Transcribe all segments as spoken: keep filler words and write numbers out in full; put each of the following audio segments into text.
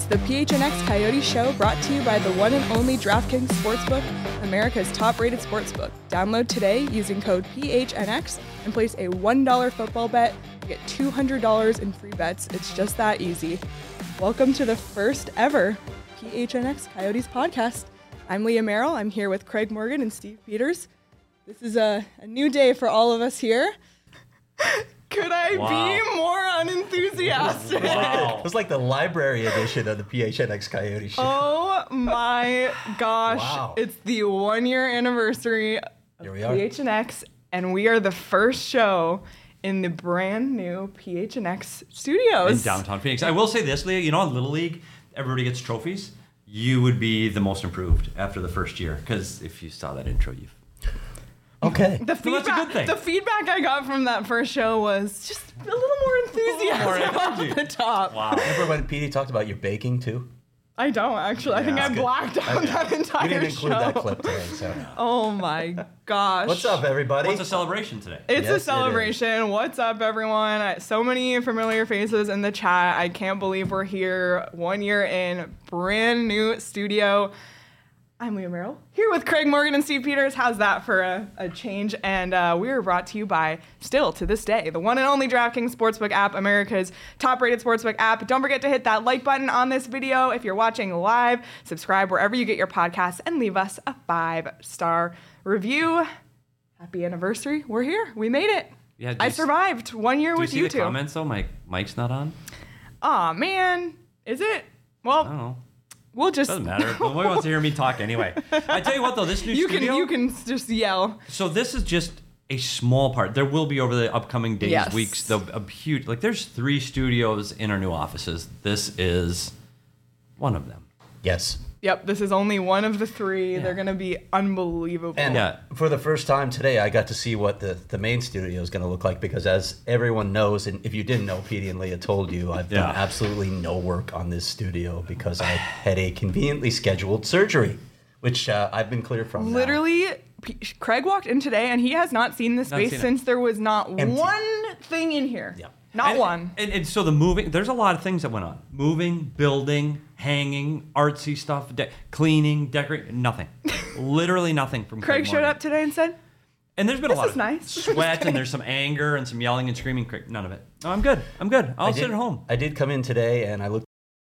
the P H N X Coyote Show, brought to you by the one and only DraftKings Sportsbook, America's top-rated sportsbook. Download today using code P H N X and place a one dollar football bet to get two hundred dollars in free bets. It's just that easy. Welcome to the first ever P H N X Coyotes podcast. I'm Leah Merrill. I'm here with Craig Morgan and Steve Peters. This is a, a new day for all of us here. Could I wow. be more unenthusiastic? Wow. It was like the library edition of the P H N X Coyote Show. Oh my gosh. Wow. It's the one year anniversary of Here we are. P H N X, and we are the first show in the brand new P H N X studios. In downtown Phoenix. I will say this, Leah, you know, in Little League, everybody gets trophies. You would be the most improved after the first year, because if you saw that intro, you've... Okay. The So that's a feedback, good thing. the feedback I got from that first show was just a little more enthusiasm more off energy. the top. Wow. Remember when Petey talked about your baking too? I don't actually. I think Yeah, I that's good. blacked out Okay. that entire We didn't include show. that clip today, so. Oh my gosh. What's up, everybody? What's a celebration today? It's Yes, it a is. celebration. What's up, everyone? I- So many familiar faces in the chat. I can't believe we're here one year in, brand new studio. I'm Leah Merrill, here with Craig Morgan and Steve Peters. How's that for a, a change? And uh, we are brought to you by, still to this day, the one and only DraftKings Sportsbook app, America's top-rated sportsbook app. Don't forget to hit that like button on this video if you're watching live. Subscribe wherever you get your podcasts and leave us a five-star review. Happy anniversary. We're here. We made it. Yeah, do I you s- survived one year Do you with see you the two. comments, though? My mic's not on? Aw, man. Is it? I Well, don't know. we'll just... Doesn't matter. Nobody wants to hear me talk anyway. I tell you what, though, this new You can, studio... you can just yell. So this is just a small part. There will be over the upcoming days, Yes. weeks, the a huge... Like, there's three studios in our new offices. This is one of them. Yes. Yep, this is only one of the three. Yeah. They're going to be unbelievable. And Yeah. for the first time today, I got to see what the, the main studio is going to look like because as everyone knows, and if you didn't know, Petey and Leah told you, I've done Yeah. absolutely no work on this studio because I had a conveniently scheduled surgery, which uh, I've been cleared from now. Literally, P- Craig walked in today and he has not seen this Not space seen it. since there was not Empty. one thing in here. Yep. Not and, one. And, and so the moving, there's a lot of things that went on. Moving, building, hanging, artsy stuff, de- cleaning, decorating, nothing. Literally nothing from Craig Craig showed Morgan. up today and said, And there's been This a lot is of nice. sweat and there's some anger and some yelling and screaming. Craig, none of it. No, I'm good. I'm good. I'll I sit did- at home. I did come in today and I looked.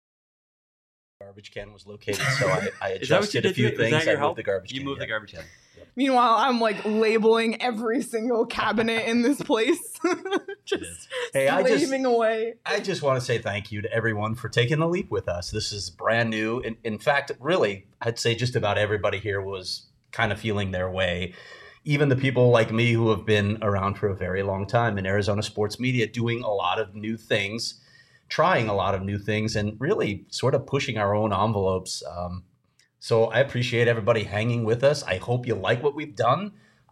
The garbage can was located, so I, I Is that what you adjusted a did? few Is things. that your I help? moved the garbage You can. moved yeah. the garbage can. meanwhile, I'm like labeling every single cabinet in this place. Just Hey, I just- slaving away. I just want to say thank you to everyone for taking the leap with us. This is brand new. In, in fact, really, I'd say just about everybody here was kind of feeling their way. Even the people like me who have been around for a very long time in Arizona sports media, doing a lot of new things, trying a lot of new things, and really sort of pushing our own envelopes. Um, so I appreciate everybody hanging with us. I hope you like what we've done.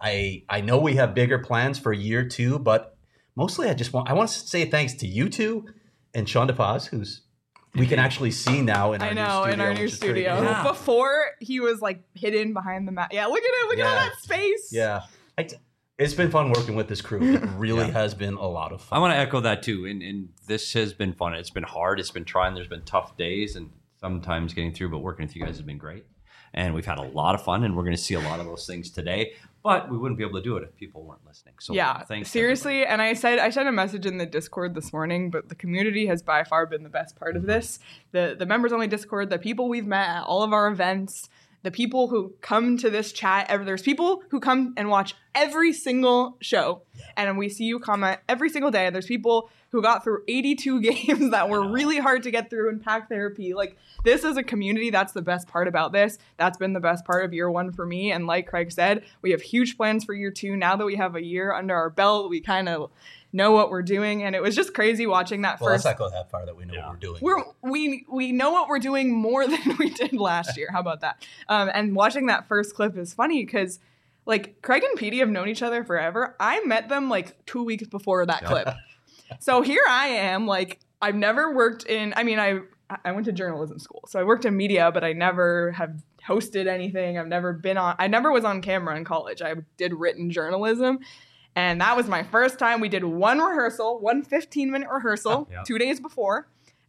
I I know we have bigger plans for year two, but mostly I just want I want to say thanks to you two and Sean DePaz, who's we can actually see now in our I new know, studio. in our new which is pretty studio. cool. Yeah. Before, he was like hidden behind the mat. Yeah, look at it. Look at all Yeah. that space. Yeah. I, it's been fun working with this crew. It really Yeah. has been a lot of fun. I want to echo that too. And, and this has been fun. It's been hard. It's been trying. There's been tough days and sometimes getting through, but working with you guys has been great. And we've had a lot of fun, and we're going to see a lot of those things today. But we wouldn't be able to do it if people weren't listening. So Yeah, thanks. to seriously. And I said I sent a message in the Discord this morning, but the community has by far been the best part of this. The the members only Discord, the people we've met at all of our events, the people who come to this chat. Ever there's people who come and watch every single show, and we see you comment every single day. There's people who got through eighty-two games that were really hard to get through in pack therapy. Like, this is a community. That's the best part about this. That's been the best part of year one for me. And like Craig said, we have huge plans for year two. Now that we have a year under our belt, we kind of know what we're doing. And it was just crazy watching that well, first. let's not go that far that we know Yeah. what we're doing. We're, we we know what we're doing more than we did last year. How about that? Um, and watching that first clip is funny because, like, Craig and Petey have known each other forever. I met them like two weeks before that clip. So here I am, like, I've never worked in, I mean, I I went to journalism school, so I worked in media, but I never have hosted anything. I've never been on, I never was on camera in college. I did written journalism. And that was my first time. We did one rehearsal, one fifteen minute rehearsal, Yeah. two days before.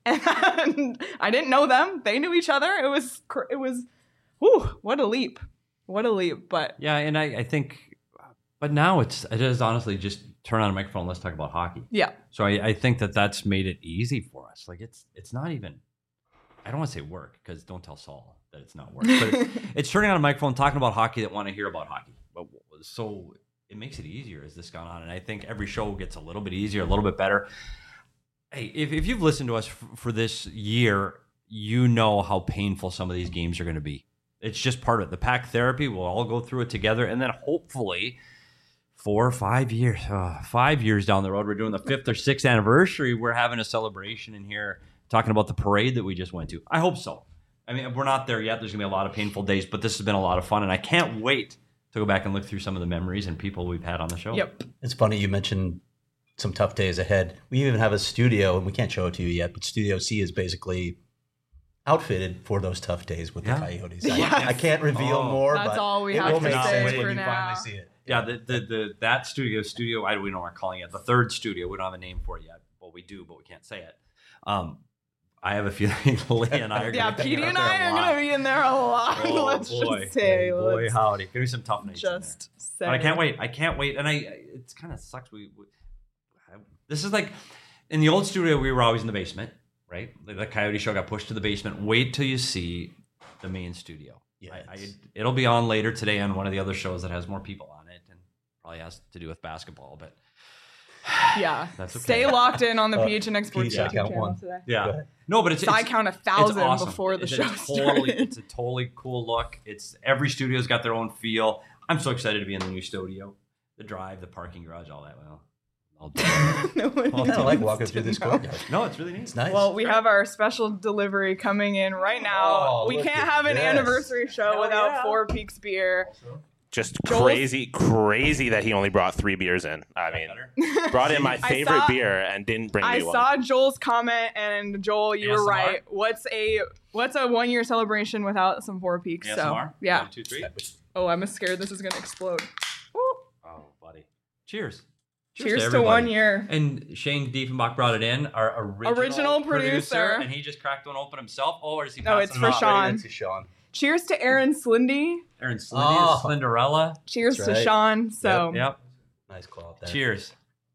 And I didn't know them. They knew each other. It was, cr- it was, whew, what a leap. What a leap. But Yeah, and I, I think, but now it's it is honestly just turn on a microphone and let's talk about hockey. yeah. So I, I think that that's made it easy for us. Like it's it's not even, I don't want to say work because don't tell Saul that it's not work. But it's, it's turning on a microphone, talking about hockey that want to hear about hockey. But so it makes it easier as this gone on, and I think every show gets a little bit easier, a little bit better. Hey, if if you've listened to us f- for this year, you know how painful some of these games are going to be. It's just part of it. The pack therapy, we'll all go through it together, and then hopefully. Four or five years, uh, five years down the road, we're doing the fifth or sixth anniversary. We're having a celebration in here, talking about the parade that we just went to. I hope so. I mean, we're not there yet. There's gonna be a lot of painful days, but this has been a lot of fun, and I can't wait to go back and look through some of the memories and people we've had on the show. Yep. It's funny you mentioned some tough days ahead. We even have a studio, and we can't show it to you yet, but Studio C is basically outfitted for those tough days with Yeah. the Coyotes. Yeah. I, I can't reveal Oh. more, That's but all we it have will to make say sense for when you now. finally see it. Yeah, the, the the that studio studio I we don't know what we're calling it. The third studio, we don't have a name for it yet. Well, we do, but we can't say it. Um, I have a feeling Leah and I are Yeah, gonna be Petey out and there I a are lot. going to be in there a lot. Oh, Let's boy. just say. boy, let's howdy. Gonna be some tough nights. in there. just say. But I can't wait. I can't wait. And I, it kind of sucks. We, we I, this is like in the old studio. We were always in the basement, right? The, the Coyote Show got pushed to the basement. Wait till you see the main studio. Yeah, I, I, it's- it'll be on later today on one of the other shows that has more people on it, and probably has to do with basketball. But Yeah. That's okay. Stay locked in on the Uh, P H N X Sports Petey, I YouTube count channel one. today. Go yeah, ahead. no, but it's, So I it's count a it's thousand awesome. before the it's show a totally, started. It's a totally cool look. It's every studio's got their own feel. I'm so excited to be in the new studio. The drive, the parking garage, all that. Well, I'll do it. No one I kind of like needs walking to through this know. courtyard. No, it's really neat. It's nice. Well, we have our special delivery coming in right now. Oh, we look can't at have an this. anniversary show Hell without yeah. Four Peaks beer. Just Joel's- crazy, crazy that he only brought three beers in. I mean, brought in my I favorite saw- beer and didn't bring I me one. saw Joel's comment, and Joel, you A S M were R? right. What's a what's a one year celebration without some Four Peaks? A S So M R? yeah. One, two, three. Oh, I'm scared this is gonna explode. Woo. Oh, buddy. Cheers. Cheers to everybody. one year. And Shane Diefenbach brought it in, our original, Original producer. and he just cracked one open himself. Oh, or is he No, passing it's it for off? Sean. To Sean. Cheers to Aaron Slindy. Aaron Slindy, Oh. Slenderella. Cheers That's to right. Sean. So Yep. Nice call up there. Cheers.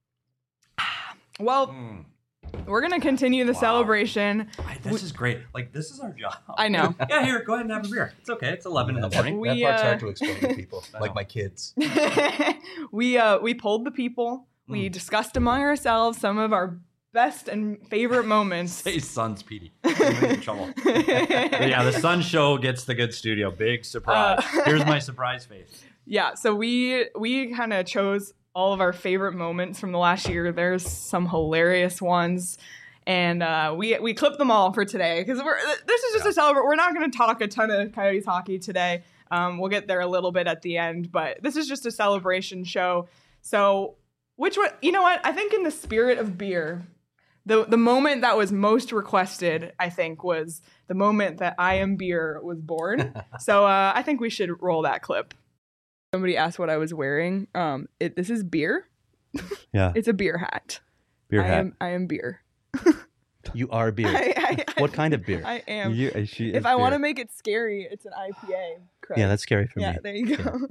well, Mm. we're gonna continue the Wow. celebration. I- this is great. Like, this is our job. I know. Yeah, here, go ahead and have a beer. It's okay. It's eleven in the That, morning. We, that part's uh, hard to explain to people, I like know. my kids. we uh we polled the people. We Mm. discussed among ourselves some of our best and favorite moments. Hey, Sun's Petey. I'm in trouble. But yeah, the Sun Show gets the good studio. Big surprise. Uh, Here's my surprise face. Yeah, so we we kind of chose all of our favorite moments from the last year. There's some hilarious ones, and uh, we we clipped them all for today because we're this is just Yeah. a celebrate. We're not going to talk a ton of Coyotes hockey today. Um, we'll get there a little bit at the end, but this is just a celebration show. So, which one? You know what? I think in the spirit of beer, the the moment that was most requested, I think, was the moment that I Am Beer was born. So uh, I think we should roll that clip. Somebody asked what I was wearing. Um, it, this is beer. Yeah, It's a beer hat. beer I hat. am. I am beer. You are beer. I, I, I, What kind of beer? I am. You- uh, she if is I want to beer. make it scary, it's an I P A. Correct. Yeah, that's scary for yeah. me. There you go.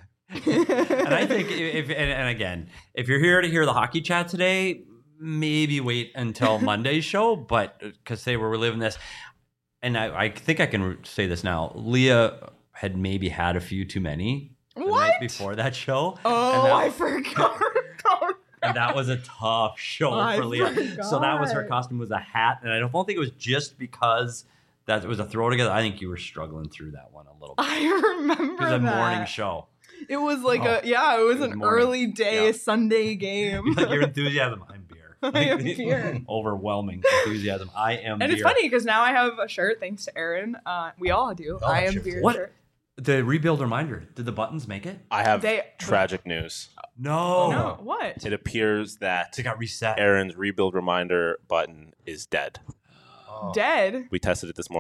And I think if and, and again, if you're here to hear the hockey chat today, maybe wait until Monday's show, but because they were reliving this, and I, I think I can say this now. Leah had maybe had a few too many the night What? before that show. Oh, and that, I forgot. and that was a tough show I for Leah. So that was her forgot. costume was a hat, and I don't think it was just because that it was a throw together. I think you were struggling through that one a little bit. I remember It was a that. morning show. It was like Oh, a yeah. It was it was an morning. early day Yeah. Sunday game. Like your enthusiasm, I'm beer. I am beer. Overwhelming enthusiasm. I am And beer. it's funny because now I have a shirt thanks to Aaron. Uh, we all do. all I have am shirts. beer What? shirt. The rebuild reminder. Did the buttons make it? I have They- tragic news. No. No, what? It appears that They got reset. Aaron's rebuild reminder button is dead. Oh. Dead. We tested it this morning.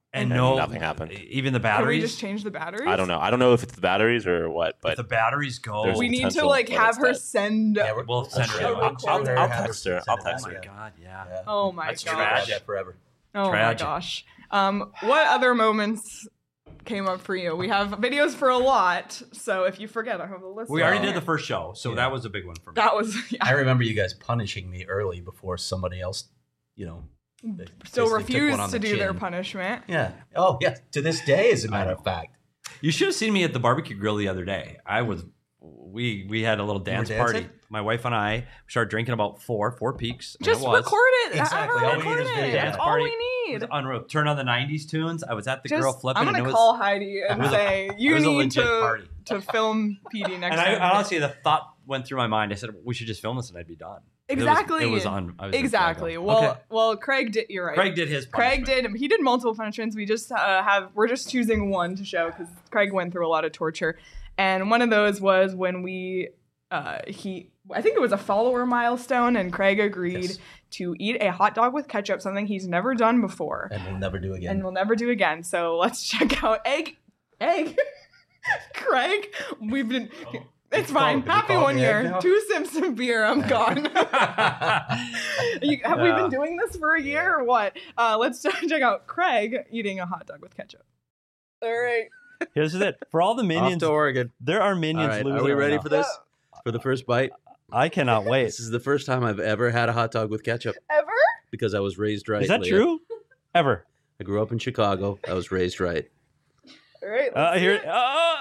And And no, nothing happened. Even the Can batteries. we just change the batteries? I don't know. I don't know if it's the batteries or what, If but the batteries go, There's We need to potential like that have it's her dead. send. Yeah, we're- we'll send I'll- her. I'll- a- I'll- I'll- I'll I'll have text her her. send I'll it text home, Oh my yeah. god, yeah. Yeah. Oh my That's gosh. tragic. Yeah, forever. Oh Tragic. my gosh. Um, what other moments came up for you? We have videos for a lot, so if you forget, I have a list. We right already here. did the first show, so Yeah. that was a big one for me. That was yeah. I remember you guys punishing me early before somebody else, you know, they Still basically took one refused on to the do their chin. punishment. Yeah. Oh, yeah. To this day, as a matter of fact. You should have seen me at the barbecue grill the other day. I was, we we had a little dance were party. dancing? My wife and I started drinking about four, four peaks. and Just it was, record it. Exactly. Have her All we need record is it. video. That's Dance all party. we It need. was unreal. Turn on the nineties tunes. I was at the Just, grill flipping. I'm and gonna it was, call Heidi and it was a- say it you was a need legit to party. to film P D next And I, time. honestly, the thought went through my mind. I said we should just film this and I'd be done. Exactly. It was, it was on. I was exactly. like, Well, okay. well, Craig did. You're right. Craig did his. Craig punishment. did. He did multiple punishments. We just uh, have. We're just choosing one to show because Craig went through a lot of torture, and one of those was when we. Uh, he. I think it was a follower milestone, and Craig agreed Yes. to eat a hot dog with ketchup, something he's never done before, And we'll never do again. and will never do again. So let's check out egg. Egg. Craig, we've been. It's Did you fine. call- did you Happy call one me egg year. now? Two sips of beer. I'm gone. You- have we Yeah. been doing this for a year or what? Uh, let's check out Craig eating a hot dog with ketchup. All right. Here's it. For all the Off minions, to Oregon. there are All minions right, losing. are we right ready now. for this? For the first bite? I cannot wait. This is the first time I've ever had a hot dog with ketchup Ever? because I was raised right. Is that Leah. true? Ever? I grew up in Chicago. I was raised right. All right. Uh, let's here. see it. Uh,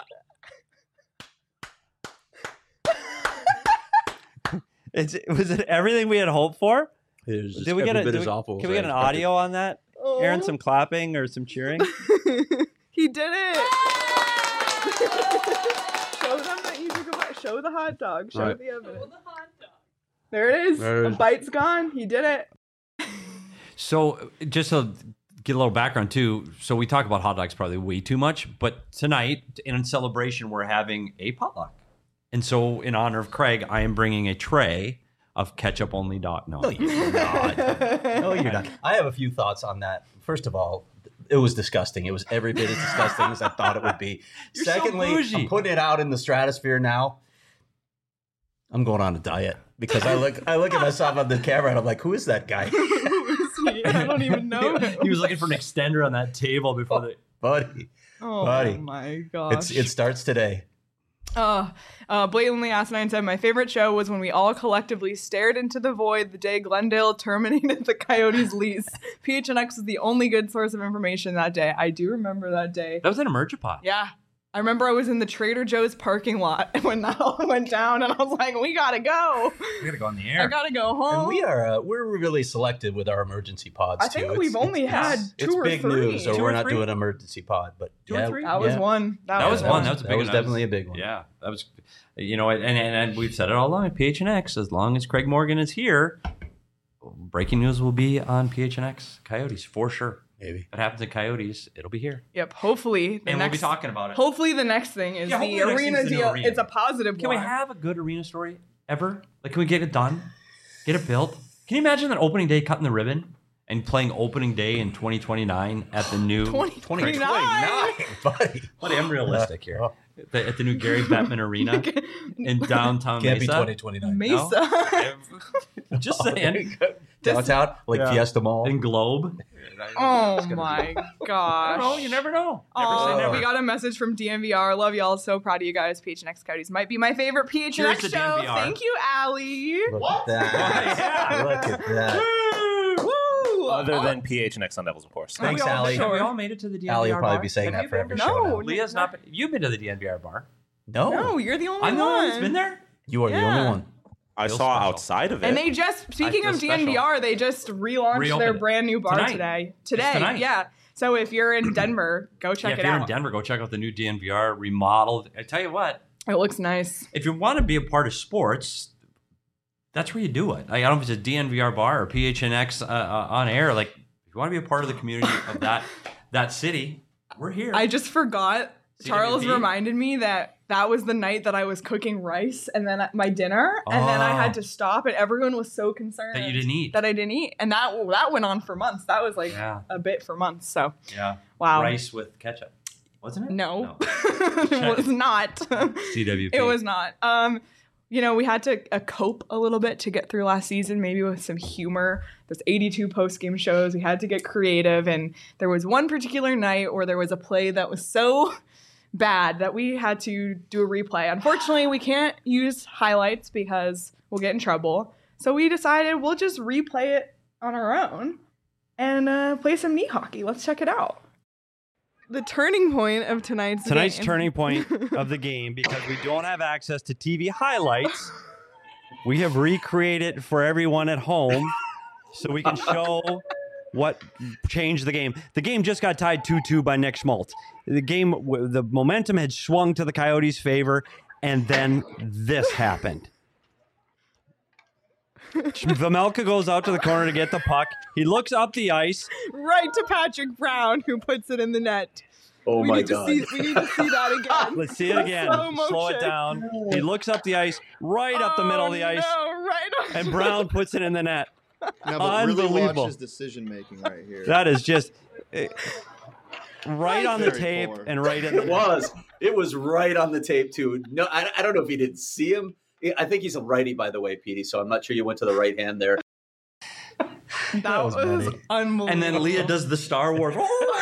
it's was it everything we had hoped for? It was just Did we every get a? bit did as we- awful. Can as we I get an expected. audio on that? Oh. Aaron, some clapping or some cheering? He did it. Show them that you took a bite. Show the hot dog. Show All right. the evidence. There it is. There it The is. bite's gone. He did it. So just to get a little background too. So we talk about hot dogs probably way too much, but tonight in celebration we're having a potluck, and so in honor of Craig, I am bringing a tray of ketchup only dog. No, No, you're not. No, you're not. I have a few thoughts on that. First of all, it was disgusting. It was every bit as disgusting as I thought it would be. You're so Secondly, bougie. I'm putting it out in the stratosphere now. I'm going on a diet because I look I look at myself on the camera and I'm like, who is that guy? Who is he? I don't even know him. he was looking for an extender on that table before the. Buddy. Oh Buddy. my gosh. It's it starts today. Uh, uh, blatantly asinine said, my favorite show was when we all collectively stared into the void the day Glendale terminated the Coyotes lease. P H N X was the only good source of information that day. I do remember that day. That was an Emergipod. Yeah. I remember I was in the Trader Joe's parking lot when that all went down, and I was like, we gotta go. We gotta go on the I air. gotta go home. And we are uh, we're really selective with our emergency pods I too. think It's- we've only it's- had it's, two it's or big three. news, so Two we're or not three? doing emergency pod. But Two or yeah, three? That was yeah. one. That, That was Yeah, one. That was a that big was one. That definitely a big one. Yeah, that was, you know, and, and and we've said it all along at P H N X. As long as Craig Morgan is here, breaking news will be on P H N X Coyotes for sure. Maybe. If it happens at Coyotes, it'll be here, Yep. Hopefully, the and next. we'll be talking about it. Hopefully, the next thing is Yeah, the hopefully the next arena thing's the new deal. arena. It's a positive Can one. we have a good arena story ever? Like, can we get it done? Get it built? Can you imagine that opening day cutting the ribbon and playing opening day in twenty twenty-nine at the new twenty twenty-nine. buddy. Buddy, I'm realistic here. Oh. At the, at the new Gary Bettman Arena in downtown Can't be Mesa. twenty twenty-nine. Mesa. Just saying. Downtown, like Yeah. Fiesta Mall. In Globe. Oh It's gonna be- my I gosh. don't know. You never know. Never Aw, say never. we got a message from D M V R. Love y'all. So proud of you guys. P H N X Coyotes might be my favorite P H N X Cheers to show. D M V R. Thank you, Allie. Look at that. Yeah. Look at that. Woo! Other than P H N X Sun Devils, of course. Thanks, Have we all- Allie. Have we all made it to the D M V R Allie will probably bar? be saying Have that you for every been? show No. now. Leah's not. been- You've been to the D M V R bar. No. No, you're the only I'm the one. one that's been there. You are the Yeah. only one. I Real saw special. outside of it. And they just, speaking feel of D N V R, they just relaunched Reopened their it. brand new bar Tonight. today. Today, tonight. yeah. So if you're in Denver, go check yeah, if it you're out. in Denver, go check out the new D N V R remodeled. I tell you what, It looks nice. if you want to be a part of sports, that's where you do it. Like, I don't know if it's a D N V R bar or P H N X uh, uh, on air. Like, if you want to be a part of the community of that that city, we're here. I just forgot. C W P? Charles reminded me that that was the night that I was cooking rice and then my dinner, and then I Oh. had to stop, and everyone was so concerned That you didn't eat. that I didn't eat, and that that went on for months. That was like Yeah. a bit for months. So Yeah. wow, Rice with ketchup. Wasn't it? no, it was not. C W P. It was not. Um, you know, we had to uh, cope a little bit to get through last season, maybe with some humor. There's eighty-two post-game shows. We had to get creative, and there was one particular night where there was a play that was so bad that we had to do a replay. Unfortunately, we can't use highlights because we'll get in trouble. So we decided we'll just replay it on our own and uh, play some knee hockey. Let's check it out. The turning point of tonight's Tonight's game. turning point of the game, because we don't have access to T V highlights, we have recreated for everyone at home so we can show what changed the game. The game just got tied two two by Nick Schmaltz. The game, the momentum had swung to the Coyotes' favor, and then this happened. Vamelka goes out to the corner to get the puck. He looks up the ice. Right to Patrick Brown, who puts it in the net. Oh we my need God. To see, we need to see that again. Let's see it again. Slow Slow it motion. down. He looks up the ice, right up the middle of the Oh, ice, No, right on. and Brown puts it in the net. No, but really watch Unbelievable. his decision making right here. That is just eh, right on the Very tape poor. and right in It the was. It was right on the tape too. No, I, I don't know if he didn't see him. I think he's a righty, by the way, Petey. So I'm not sure you went to the right hand there. That was was, funny. unbelievable. And then Leah does the Star Wars.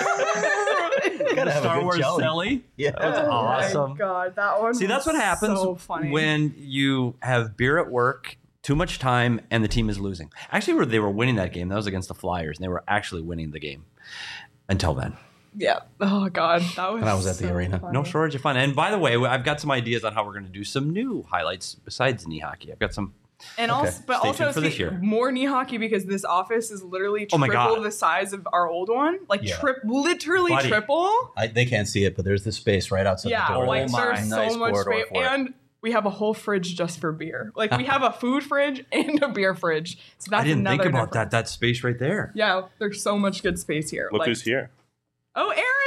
Gotta have a Star good Wars jelly. Sally. Yeah. That's Oh awesome. my God, that one. See, that's was what happens So funny. when you have beer at work, too much time, and the team is losing. Actually, they were winning that game. That was against the Flyers, and they were actually winning the game until then. Yeah. Oh God, that was. And I was at the so arena. funny. No shortage of fun. And by the way, I've got some ideas on how we're going to do some new highlights besides knee hockey. I've got some. And Okay. also, but Stay also tuned for this see, year. more knee hockey because this office is literally Oh my triple God. the size of our old one. Like Yeah. trip, literally Buddy. triple. I, they can't see it, but there's the space right outside Yeah, the door. like Oh my. there's so Nice much corridor space, for it. and we have a whole fridge just for beer. Like we have a food fridge and a beer fridge. So that's I didn't another think about that. difference. That space right there. Yeah, there's so much good space here. Look Like- who's here. Oh,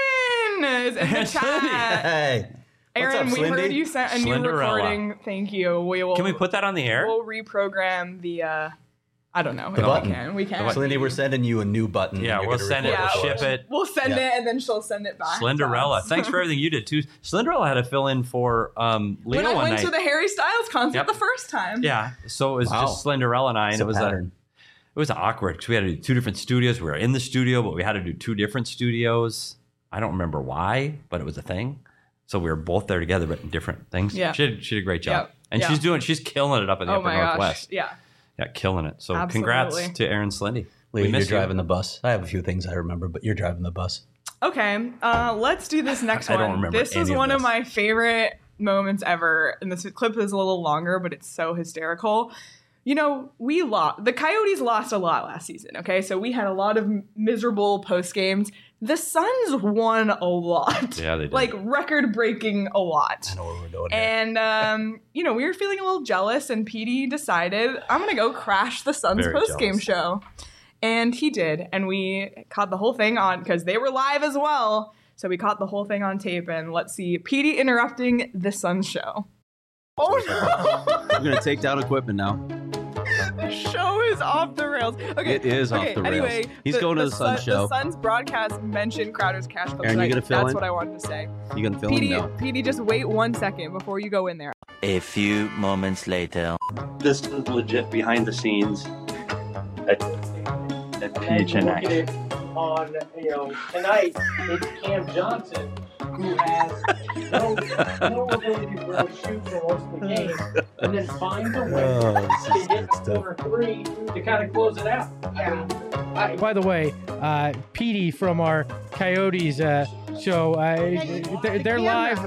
Aaron is in the chat. Hey. What's Aaron, up, we heard Slindy? you sent a new Slenderella. recording. Thank you. We will. Can we put that on the air? We'll reprogram the. Uh, I don't know. The if button. We can. We can. Slindy, we're sending you a new button. Yeah, You're we'll gonna send it, record Yeah, for ship us. it. We'll send Yeah. it and then she'll send it back. to Slenderella. us. Thanks for everything you did too. Slenderella had to fill in for um, Leo When I one went night. to the Harry Styles concert Yep. the first time. Yeah, so it was Wow. just Slenderella and I, and It's it a was a, pattern. it was awkward because we had to do two different studios. We were in the studio, but we had to do two different studios. I don't remember why, but it was a thing. So we were both there together, but in different things. Yeah. she did, she did a great job, Yep. and Yeah. she's doing, she's killing it up in the Oh Upper my gosh. Northwest. Yeah. Yeah, killing it. So Absolutely. congrats to Aaron Slendy. Lee, We you're miss you. driving the bus. I have a few things I remember, but you're driving the bus. Okay. Uh, let's do this next I one. don't remember This was any of one of this. my favorite moments ever, and this clip is a little longer, but it's so hysterical. You know, we lost. The Coyotes lost a lot last season. Okay, so we had a lot of miserable post games. The Suns won a lot. Yeah, they did. Like record breaking a lot. I know where we're going here. And um, you know, we were feeling a little jealous, and Petey decided I'm gonna go crash the Suns Very post game jealous. show, and he did, and we caught the whole thing on because they were live as well. So we caught the whole thing on tape, and let's see Petey interrupting the Suns show. Oh We're gonna take down equipment now. no! The show is off the rails. Okay, It is off okay, the rails. Anyway, He's going to the Suns Sun- show. The Suns broadcast mentioned Crowder's Cash Club. Aaron, you tonight. gonna fill That's in? what I wanted to say. You gonna film him Petey, now? Petey, just wait one second before you go in there. A few moments later. This is legit behind the scenes at, at P H N X. On, you know, tonight, it's Cam Johnson, who has no, no ability to really shoot for most of the game, and then finds a way Oh, to get the corner three to kind of close it out. I mean, I, by the way, uh, Petey from our Coyotes uh, show, uh, they're, they're live.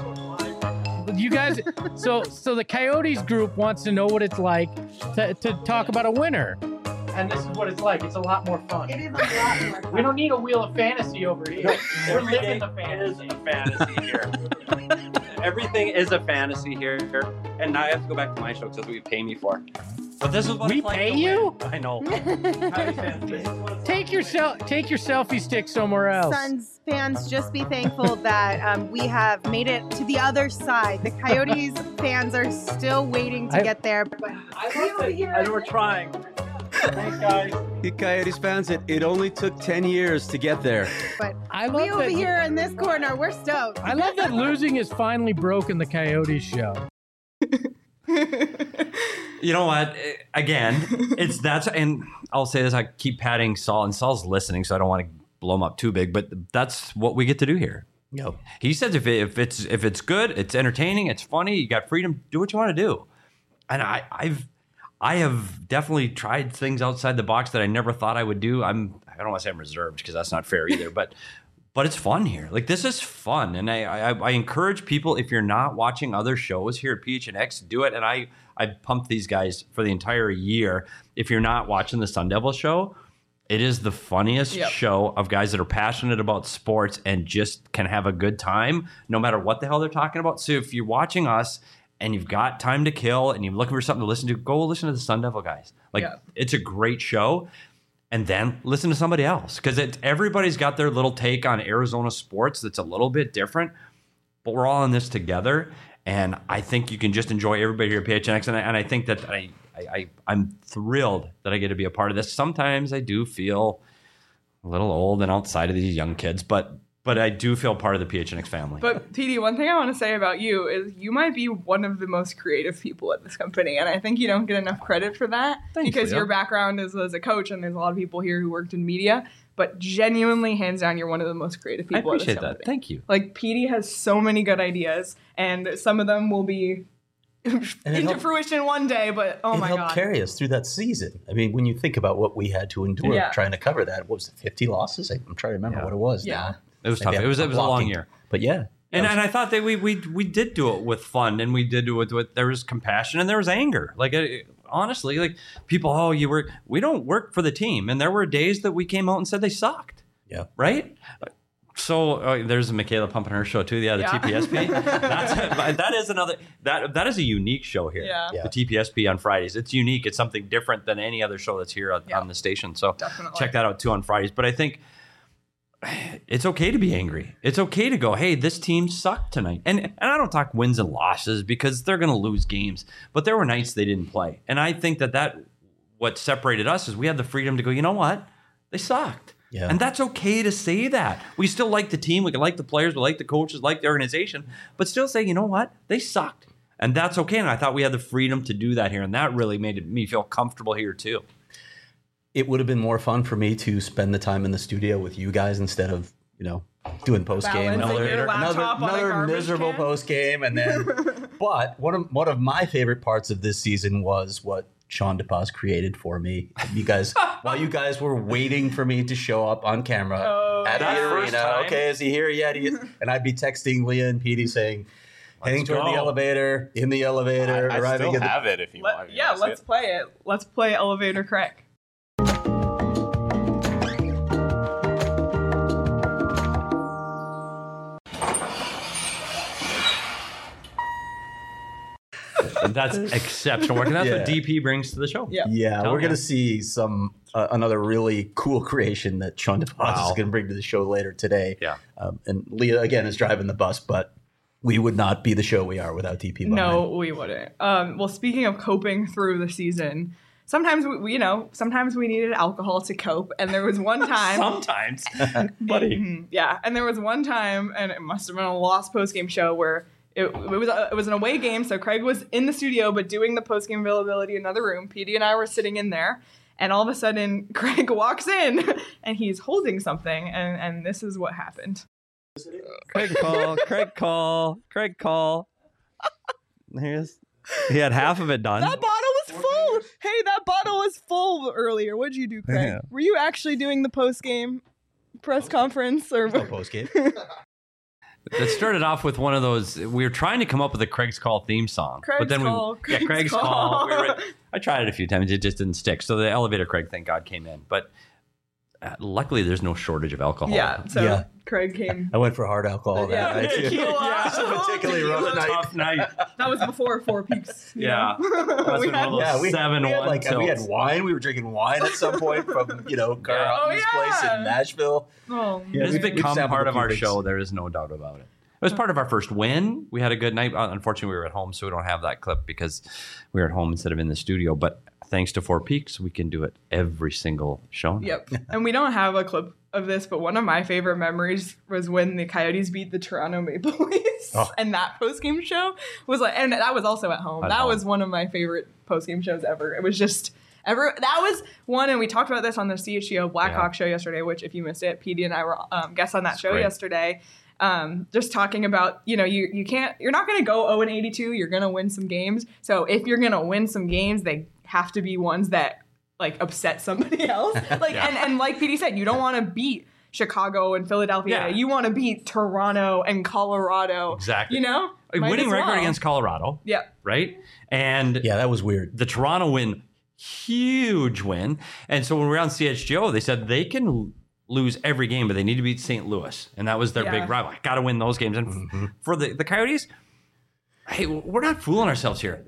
You guys, so so the Coyotes group wants to know what it's like to, to talk about a winner. And this is what it's like. It's a lot more fun. It is a lot more fun. We don't need a wheel of fantasy over here. We're living the fantasy. fantasy here. Everything is a fantasy here, and now I have to go back to my show because that's what you pay me for. But this is what We it's like pay to you? win. I know. Take your sel- take your selfie stick somewhere else. Suns fans, just be thankful that um, we have made it to the other side. The Coyotes fans are still waiting to I- get there. But I know we're trying. Thanks, guys. You Coyotes fans, it, it only took ten years to get there. but I love we over that- here in this corner, we're stoked. I love that losing has finally broken the Coyotes show. You know what? Eh, Again, it's that's and I'll say this. I keep patting Saul, and Saul's listening, so I don't want to blow him up too big. But that's what we get to do here. Yep. He says if it, if it's if it's good, it's entertaining, it's funny, you got freedom, do what you want to do. And I, I've I have definitely tried things outside the box that I never thought I would do. I'm I don't want to say I'm reserved because that's not fair either, but but it's fun here. Like this is fun, and I, I I encourage people, if you're not watching other shows here at P H N X, do it. And I I pumped these guys for the entire year. If you're not watching the Sun Devil show, it is the funniest Yep. show of guys that are passionate about sports and just can have a good time no matter what the hell they're talking about. So if you're watching us and you've got time to kill and you're looking for something to listen to, go listen to the Sun Devil guys. Like Yeah. it's a great show. And then listen to somebody else, because everybody's got their little take on Arizona sports that's a little bit different, but we're all in this together. And I think you can just enjoy everybody here at P H N X. And I, and I think that I, I, I, I'm thrilled that I get to be a part of this. Sometimes I do feel a little old and outside of these young kids, but but I do feel part of the P H N X family. But P D, one thing I want to say about you is you might be one of the most creative people at this company, and I think you don't get enough credit for that. Thanks, because Leo. your background is as a coach, and there's a lot of people here who worked in media. But genuinely, hands down, you're one of the most creative I people at this appreciate company. that. Thank you. Like P D has so many good ideas, and some of them will be into helped- fruition one day. But oh it my helped god, carry us through that season. I mean, when you think about what we had to endure Yeah. trying to cover that, what was it, fifty losses? I'm trying to remember Yeah. what it was Yeah. now. It was Maybe tough. I'm- It was it I'm was a long blocking. year. But yeah. And, that was- and I thought that we we we did do it with fun, and we did do it with there was compassion and there was anger. Like uh, honestly, like people, oh, you work. We don't work for the team, and there were days that we came out and said they sucked. Yeah. Right. So uh, there's Michaela pumping her show too. Yeah, the Yeah. T P S P. That's that is another that that is a unique show here. Yeah. Yeah. The T P S P on Fridays. It's unique. It's something different than any other show that's here on, Yeah. on the station. So Definitely. check that out too on Fridays. But I think it's okay to be angry. It's okay to go, hey, this team sucked tonight. And and I don't talk wins and losses because they're going to lose games. But there were nights they didn't play. And I think that that what separated us is we had the freedom to go, you know what? They sucked. Yeah. And that's okay to say that. We still like the team. We can like the players. We like the coaches, like the organization. But still say, you know what? They sucked. And that's okay. And I thought we had the freedom to do that here. And that really made it, me feel comfortable here too. it would have been more fun for me to spend the time in the studio with you guys instead of, you know, doing post game. Balancing Another, your another, laptop on a another garbage miserable can. post game. And then, but one of, one of my favorite parts of this season was what Sean DePaz created for me. You guys, while you guys were waiting for me to show up on camera Oh, at yeah. the That first arena. time. Okay, is he here yet? He is. And I'd be texting Leah and Petey saying, heading toward go. the elevator, in the elevator, I, I arriving still at the have it if you Let- want. if you yeah, wanna see let's it. play it. Let's play Elevator Craig. And that's exceptional work. And that's Yeah. what D P brings to the show. Yeah. Yeah, Tell we're me. going to see some uh, another really cool creation that Sean DePaz Wow. is going to bring to the show later today. Yeah. Um, and Leah, again, is driving the bus, but we would not be the show we are without D P behind. No, we wouldn't. Um, well, speaking of coping through the season, sometimes we, we, you know, sometimes we needed alcohol to cope. And there was one time, Sometimes. Buddy. Mhm, yeah, and there was one time, and it must have been a lost post game show where it, it was a, it was an away game. So Craig was in the studio, but doing the post game availability in another room. Petey and I were sitting in there. And all of a sudden, Craig walks in, and he's holding something, and, and this is what happened. Craig call, Craig call, Craig call. Here's he had half of it done. That bottle was full. Hey, that bottle was full earlier. What'd you do, Craig? Yeah. Were you actually doing the post game press conference or? No post game. That started off with one of those. We were trying to come up with a Craig's Call theme song, Craig's but then Call, we yeah Craig's Craig's Call. Call. We were, I tried it a few times. It just didn't stick. So the elevator Craig, thank God, came in. But uh, luckily there's no shortage of alcohol. Yeah. So Yeah. Craig came. I went for hard alcohol Yeah. that night. too. Tequila. It was a particularly rough night. Tough night. That was before Four Peaks. you Yeah. know? That's We been had- one of those Yeah, we, seven we had one like we had tilts. wine. We were drinking wine at some point from you know Carl Yeah. Hutton's Oh, place yeah. in Nashville. Oh, Yeah, It has we've- we've become sampled part a of few our things. show. There is no doubt about it. It was part of our first win. We had a good night. Uh, Unfortunately, we were at home, so we don't have that clip because we were at home instead of in the studio. But thanks to Four Peaks, we can do it every single show. now. Yep. And we don't have a clip of this, but one of my favorite memories was when the Coyotes beat the Toronto Maple Leafs. Oh. And that post-game show was like, and that was also at home. At that home. was one of my favorite post-game shows ever. It was just, ever, that was one, and we talked about this on the C H G O Blackhawk show yesterday, which if you missed it, P D and I were um, guests on that That's show great. yesterday. Um, just talking about, you know, you you can't, you're not going to go oh and eighty-two. You're going to win some games. So if you're going to win some games, they have to be ones that like upset somebody else. Like Yeah. and and like P D said, you don't want to beat Chicago and Philadelphia. Yeah. You want to beat Toronto and Colorado. Exactly. You know, A Might winning as record well. against Colorado, Yeah. right? And Yeah, that was weird. the Toronto win, huge win. And so when we were on C H G O, they said they can l- lose every game, but they need to beat Saint Louis. And that was their Yeah. big rival. Got to win those games. And f- for the, the Coyotes, hey, we're not fooling ourselves here.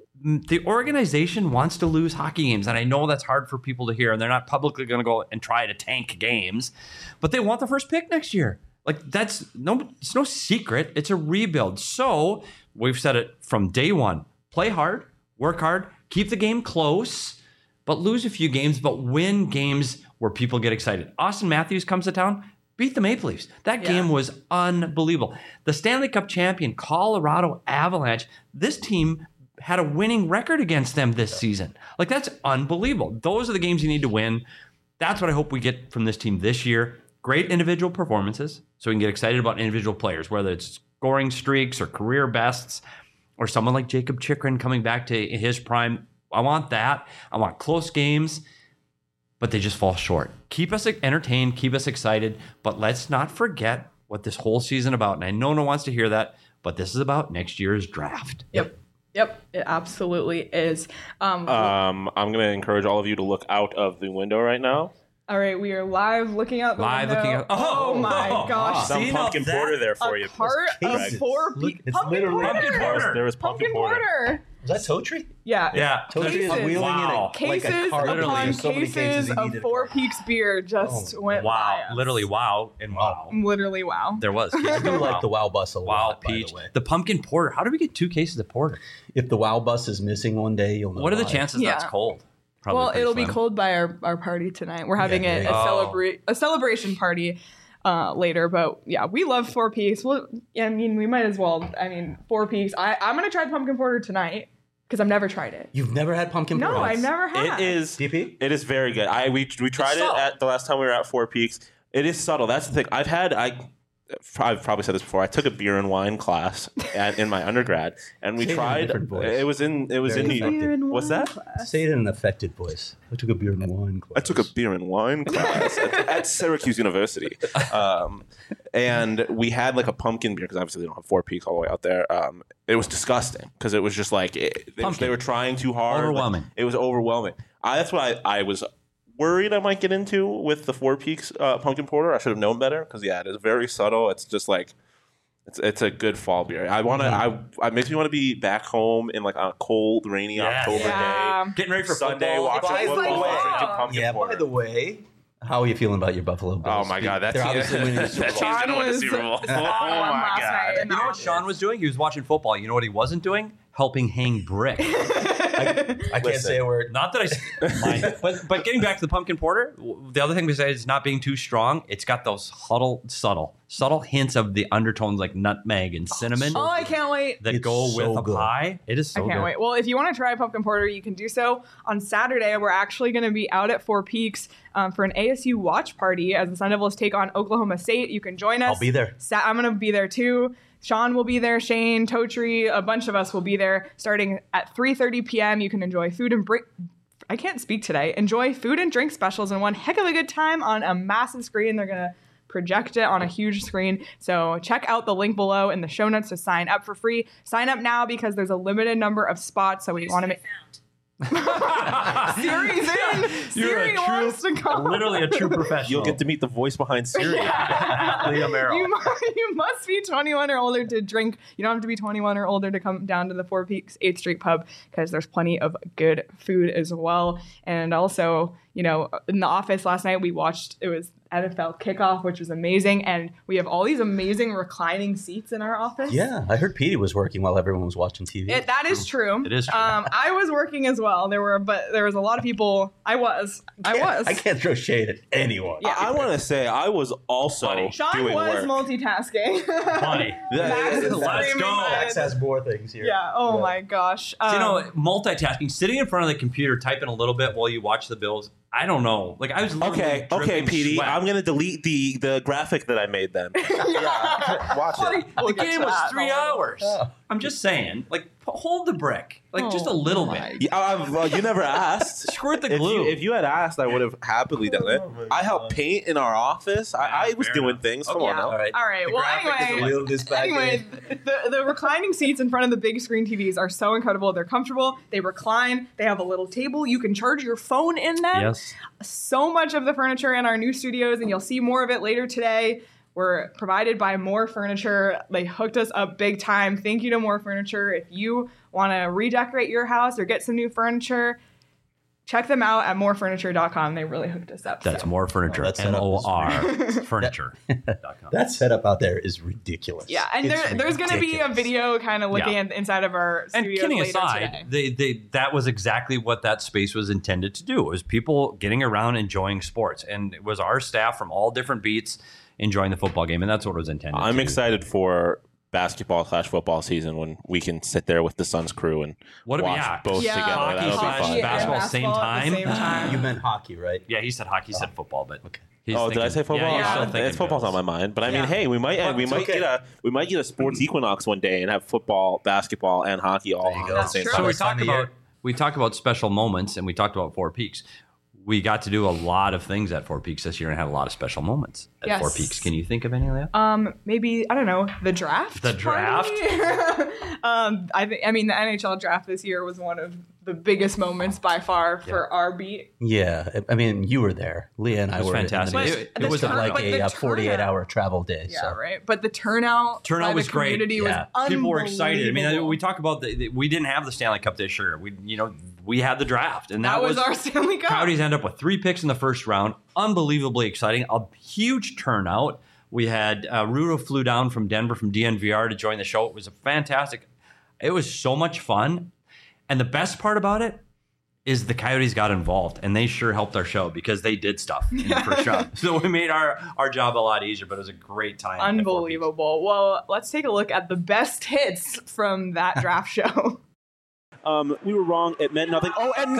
The organization wants to lose hockey games. And I know that's hard for people to hear. And they're not publicly going to go and try to tank games, but they want the first pick next year. Like that's no, it's no secret. It's a rebuild. So we've said it from day one, play hard, work hard, keep the game close, but lose a few games, but win games where people get excited. Austin Matthews comes to town, beat the Maple Leafs. That Yeah. game was unbelievable. The Stanley Cup champion, Colorado Avalanche, this team had a winning record against them this season. Like that's unbelievable. Those are the games you need to win. That's what I hope we get from this team this year. Great individual performances, so we can get excited about individual players, whether it's scoring streaks or career bests, or someone like Jacob Chikrin coming back to his prime. I want that. I want close games, but they just fall short. Keep us entertained, keep us excited, but let's not forget what this whole season about. And I know no one wants to hear that, but this is about next year's draft. Yep. Yep. It absolutely is. Um, Um, I'm going to encourage all of you to look out of the window right now. all right. We are live looking out the Live window. looking out- Oh, Oh, my oh, gosh. Some See, now pumpkin that- porter there for A you. cart of cases. four Look, pe- it's pumpkin literally- porter. Pumpkin porter. There was pumpkin, Pumpkin porter. porter. Was that Totri? Yeah. Yeah. Totri is Cases. wheeling Wow. in it like a Cases cart. Literally. upon So many cases he of needed. Four Peaks beer just went by Wow. us. Literally wow and wow. Literally wow. There was. I do like the Wow Bus a Wow, lot, by peach. the way. The pumpkin porter. How do we get two cases of porter? If the Wow Bus is missing one day, you'll know What are the why. chances Yeah. that's cold? Probably Well, pretty it'll be slim. cold by our, our party tonight. We're having Yeah, a, yeah, a yeah. celebrate a celebration party uh, later, but yeah, we love Four Peaks. Well, I mean, we might as well. I mean, Four Peaks. I, I'm gonna try the pumpkin porter tonight because I've never tried it. You've never had pumpkin No, porter? I've never had. It is. D P? It is very good. I we we tried it subtle. at the last time we were at Four Peaks. It is subtle. That's the thing. I've had I. I've probably said this before. I took a beer and wine class at, in my undergrad, and we Say it in a tried. different voice. It was in. It was Very in New York. effective. and What's wine that? class. Say it in an affected voice. I took a beer and wine class. I took a beer and wine class at, at Syracuse University, um, and we had like a pumpkin beer because obviously they don't have Four Peaks all the way out there. Um, it was disgusting because it was just like it, they, Pumpkin. they were trying too hard. Overwhelming. It was overwhelming. I, that's what I, I was worried I might get into with the Four Peaks uh, pumpkin porter. I should have known better because yeah, it is very subtle. It's just like. It's, it's a good fall beer. I want to. I it makes me want to be back home in like a cold, rainy Yes. October Yeah. day, Getting ready for Sunday, football. watching It tastes football, like fall. drinking pumpkin Yeah, porter. by the way, how are you feeling about your Buffalo Bills? Oh my God, that's They're obviously winning the Super that Bowl. team's gonna win the was Super Bowl. Oh on my last God! night. You know what Sean was doing? He was watching football. You know what he wasn't doing? Helping hang brick. I, I can't Listen. say a word. Not that I mind. But but getting back to the pumpkin porter, w- the other thing besides not being too strong, it's got those huddle, subtle, subtle hints of the undertones like nutmeg and cinnamon Oh, I can't wait. that It's go so with a good. pie. It is so I can't good. wait. Well, if you want to try pumpkin porter, you can do so on Saturday. We're actually going to be out at Four Peaks um, for an A S U watch party as the Sun Devils take on Oklahoma State. You can join us. I'll be there. Sa- I'm going to be there too. Sean will be there. Shane, Totri, a bunch of us will be there starting at three thirty p.m. You can enjoy food and break. I can't speak today. Enjoy food and drink specials and one heck of a good time on a massive screen. They're going to project it on a huge screen. So check out the link below in the show notes to sign up for free. Sign up now because there's a limited number of spots. So we want to make Siri's in. Siri wants to come. Literally a true professional. You'll get to meet the voice behind Siri. Leah Merrill. You, mu- you must be twenty-one or older to drink. You don't have to be twenty-one or older to come down to the Four Peaks eighth Street Pub because there's plenty of good food as well. And also, you know, in the office last night, we watched, it was N F L kickoff, which was amazing. And we have all these amazing reclining seats in our office. Yeah, I heard Petey was working while everyone was watching T V. It, that is true. It is true. Um, I was working as well. There were, but there was a lot of people. I was. I was. I can't throw shade at anyone. Yeah. I, I want to say I was also Funny. Sean doing was work. multitasking. Funny. Max is Let's screaming go. my- Max has more things here. Yeah. Oh my gosh. So, you know, Um, multitasking, sitting in front of the computer, typing a little bit while you watch the Bills. I don't know. Like I was literally Okay, okay, dripping Petey. sweat. I'm gonna delete the the graphic that I made then. yeah, watch Buddy, it. the Look at game was that. three hours. I'm just saying, like, p- hold the brick, like just a little bit. Yeah, I, well, you never asked. Squirt the If glue. you, if you had asked, I would have happily done it. I helped paint in our office. I, I was fair doing enough. things. Come Okay. on now. All right. All right. The Well, graphic is a anyway, little this back anyway, the, the reclining seats in front of the big screen T Vs are so incredible. They're comfortable. They recline. They have a little table. You can charge your phone in them. Yes. So much of the furniture in our new studios, and you'll see more of it later today. We're provided by More Furniture. They hooked us up big time. Thank you to More Furniture. If you want to redecorate your house or get some new furniture, check them out at more furniture dot com. They really hooked us up. That's so. more furniture. Oh, that's M O R furniture. That setup out there is ridiculous. Yeah, and It's there, there's going to be a ridiculous. video kind of looking Yeah. at inside of our And studios kidding later aside, today. they, they that was exactly what that space was intended to do. It was people getting around enjoying sports, and it was our staff from all different beats enjoying the football game, and that's what it was intended. I'm to. excited for basketball slash football season when we can sit there with the Suns crew and What do we watch have? both Yeah. together. Hockey That'll be slash fun. and basketball, same basketball at time? the same time. You meant hockey, right? Yeah, he said hockey, he said football, but okay. He's Oh, did I thinking- say football? Yeah, you're Yeah. still Uh, thinking it's football's on Bills. my mind, but I mean, Yeah. hey, we might But we it's might okay. get a we might get a sports equinox one day and have football, basketball, and hockey all There you on go. at the That's same true. So time. we This time talked of about year. we talked about special moments, and we talked about Four Peaks. We got to do a lot of things at Four Peaks this year and had a lot of special moments at Yes. Four Peaks. Can you think of any, Leah? Um, maybe I don't know the draft. The draft? party? um, I think I mean the N H L draft this year was one of the biggest moments by far for our beat. Yeah, I mean, you were there. Leah and It I was were. fantastic. In the It- midst it of was like turn- but a, the uh forty-eight turnout- hour travel day. Yeah, so. right. But the turnout, Turnout by was the great. community Yeah. was People were excited. I mean, unbelievable. we talk about the, the we didn't have the Stanley Cup this year. We, you know, we had the draft, and that, that was our Stanley Cup. Coyotes end up with three picks in the first round. Unbelievably exciting. A huge turnout. We had uh, Rudo flew down from Denver from D N V R to join the show. It was a fantastic. It was so much fun, and the best part about it is the Coyotes got involved, and they sure helped our show because they did stuff in the first round. So we made our our job a lot easier. But it was a great time. at Four Peaks. Unbelievable. Well, let's take a look at the best hits from that draft show. Um, we were wrong. It meant nothing. Oh, and